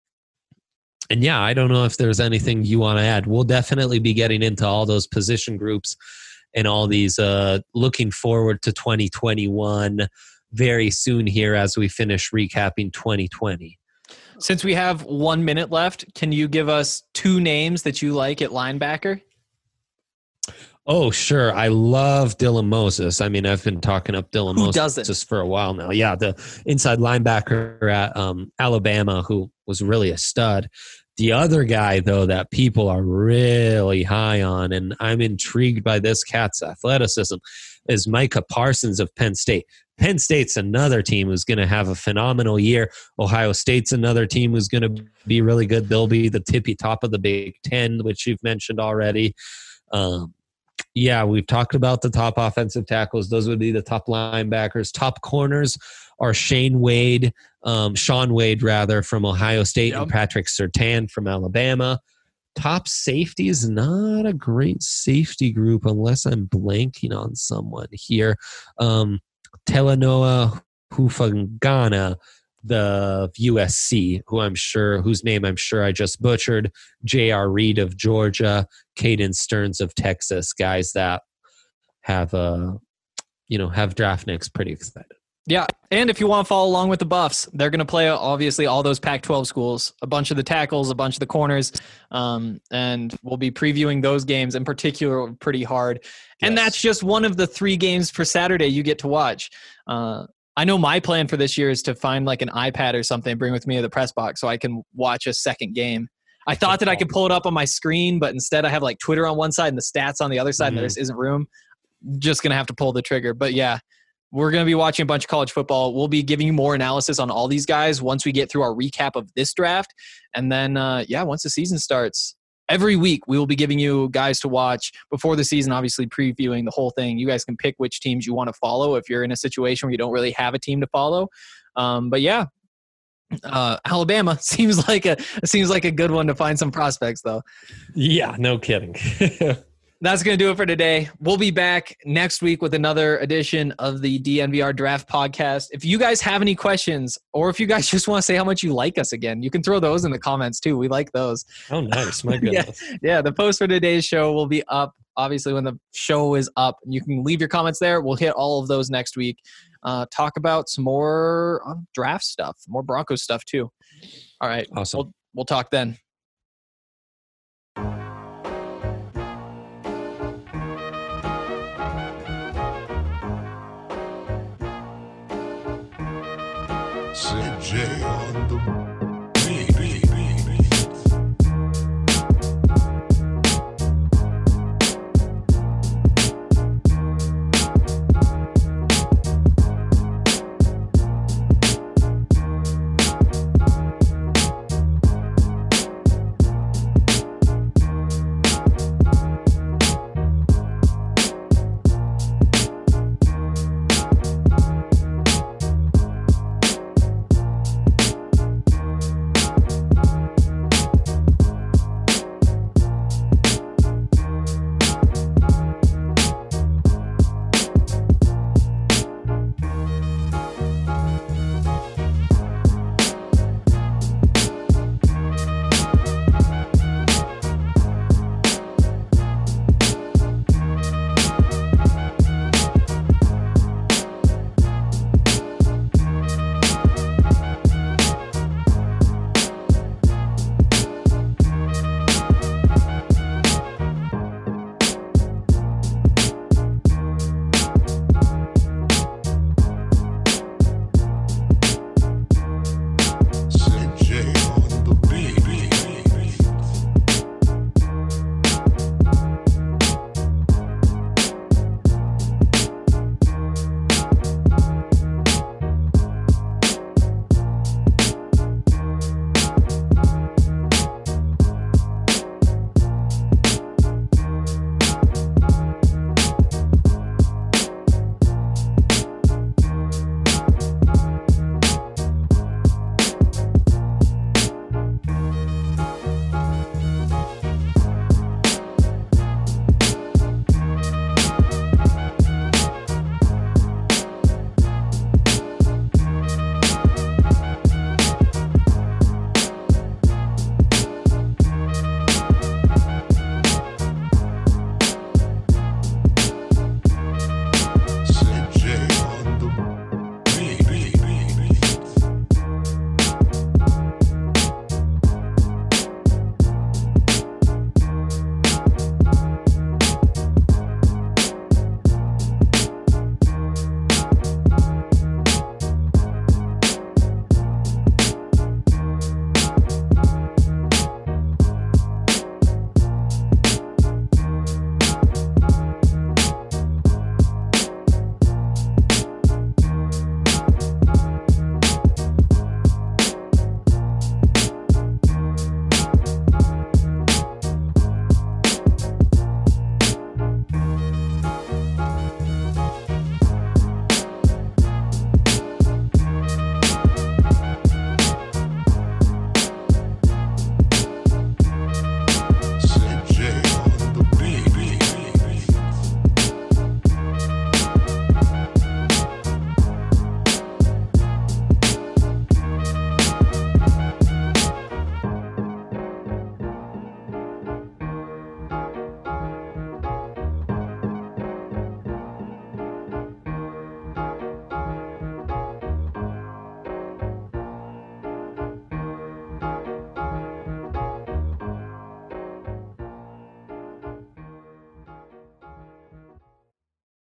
Speaker 3: don't know if there's anything you want to add. We'll definitely be getting into all those position groups and all these looking forward to 2021 very soon here as we finish recapping 2020.
Speaker 2: Since we have 1 minute left, can you give us 2 names that you like at linebacker?
Speaker 3: Oh, sure. I love Dylan Moses. I mean, I've been talking up Dylan
Speaker 2: Who
Speaker 3: Moses
Speaker 2: doesn't?
Speaker 3: just for a while now. Yeah, the inside linebacker at Alabama, who was really a stud. The other guy, though, that people are really high on, and I'm intrigued by this cat's athleticism, is Micah Parsons of Penn State. Penn State's another team who's going to have a phenomenal year. Ohio State's another team who's going to be really good. They'll be the tippy top of the Big Ten, which you've mentioned already. Yeah, we've talked about the top offensive tackles. Those would be the top linebackers. Top corners are Shaun Wade from Ohio State, and Patrick Surtain from Alabama. Top safety is not a great safety group unless I'm blanking on someone here. Talanoa Hufangana, the USC, whose name I'm sure I just butchered, J.R. Reed of Georgia, Caden Stearns of Texas, guys that have draft nicks pretty excited.
Speaker 2: Yeah, and if you want to follow along with the Buffs, they're going to play obviously all those Pac-12 schools, a bunch of the tackles, a bunch of the corners, and we'll be previewing those games in particular pretty hard. And
Speaker 3: Yes.
Speaker 2: that's just one of the 3 games for Saturday you get to watch. I know my plan for this year is to find like an iPad or something and bring with me to the press box so I can watch a second game. I thought that I could pull it up on my screen, but instead I have like Twitter on one side and the stats on the other side, and there just isn't room. Just going to have to pull the trigger. But yeah, we're going to be watching a bunch of college football. We'll be giving you more analysis on all these guys once we get through our recap of this draft. And then, once the season starts, every week we will be giving you guys to watch before the season, obviously previewing the whole thing. You guys can pick which teams you want to follow if you're in a situation where you don't really have a team to follow. Alabama seems like a good one to find some prospects, though.
Speaker 3: Yeah, no kidding.
Speaker 2: That's going to do it for today. We'll be back next week with another edition of the DNVR Draft Podcast. If you guys have any questions, or if you guys just want to say how much you like us again, you can throw those in the comments too. We like those.
Speaker 3: Oh, nice. My goodness.
Speaker 2: Yeah, the post for today's show will be up, obviously, when the show is up. You can leave your comments there. We'll hit all of those next week. Talk about some more draft stuff, more Broncos stuff too. All right.
Speaker 3: Awesome.
Speaker 2: We'll talk then.
Speaker 1: CJ on the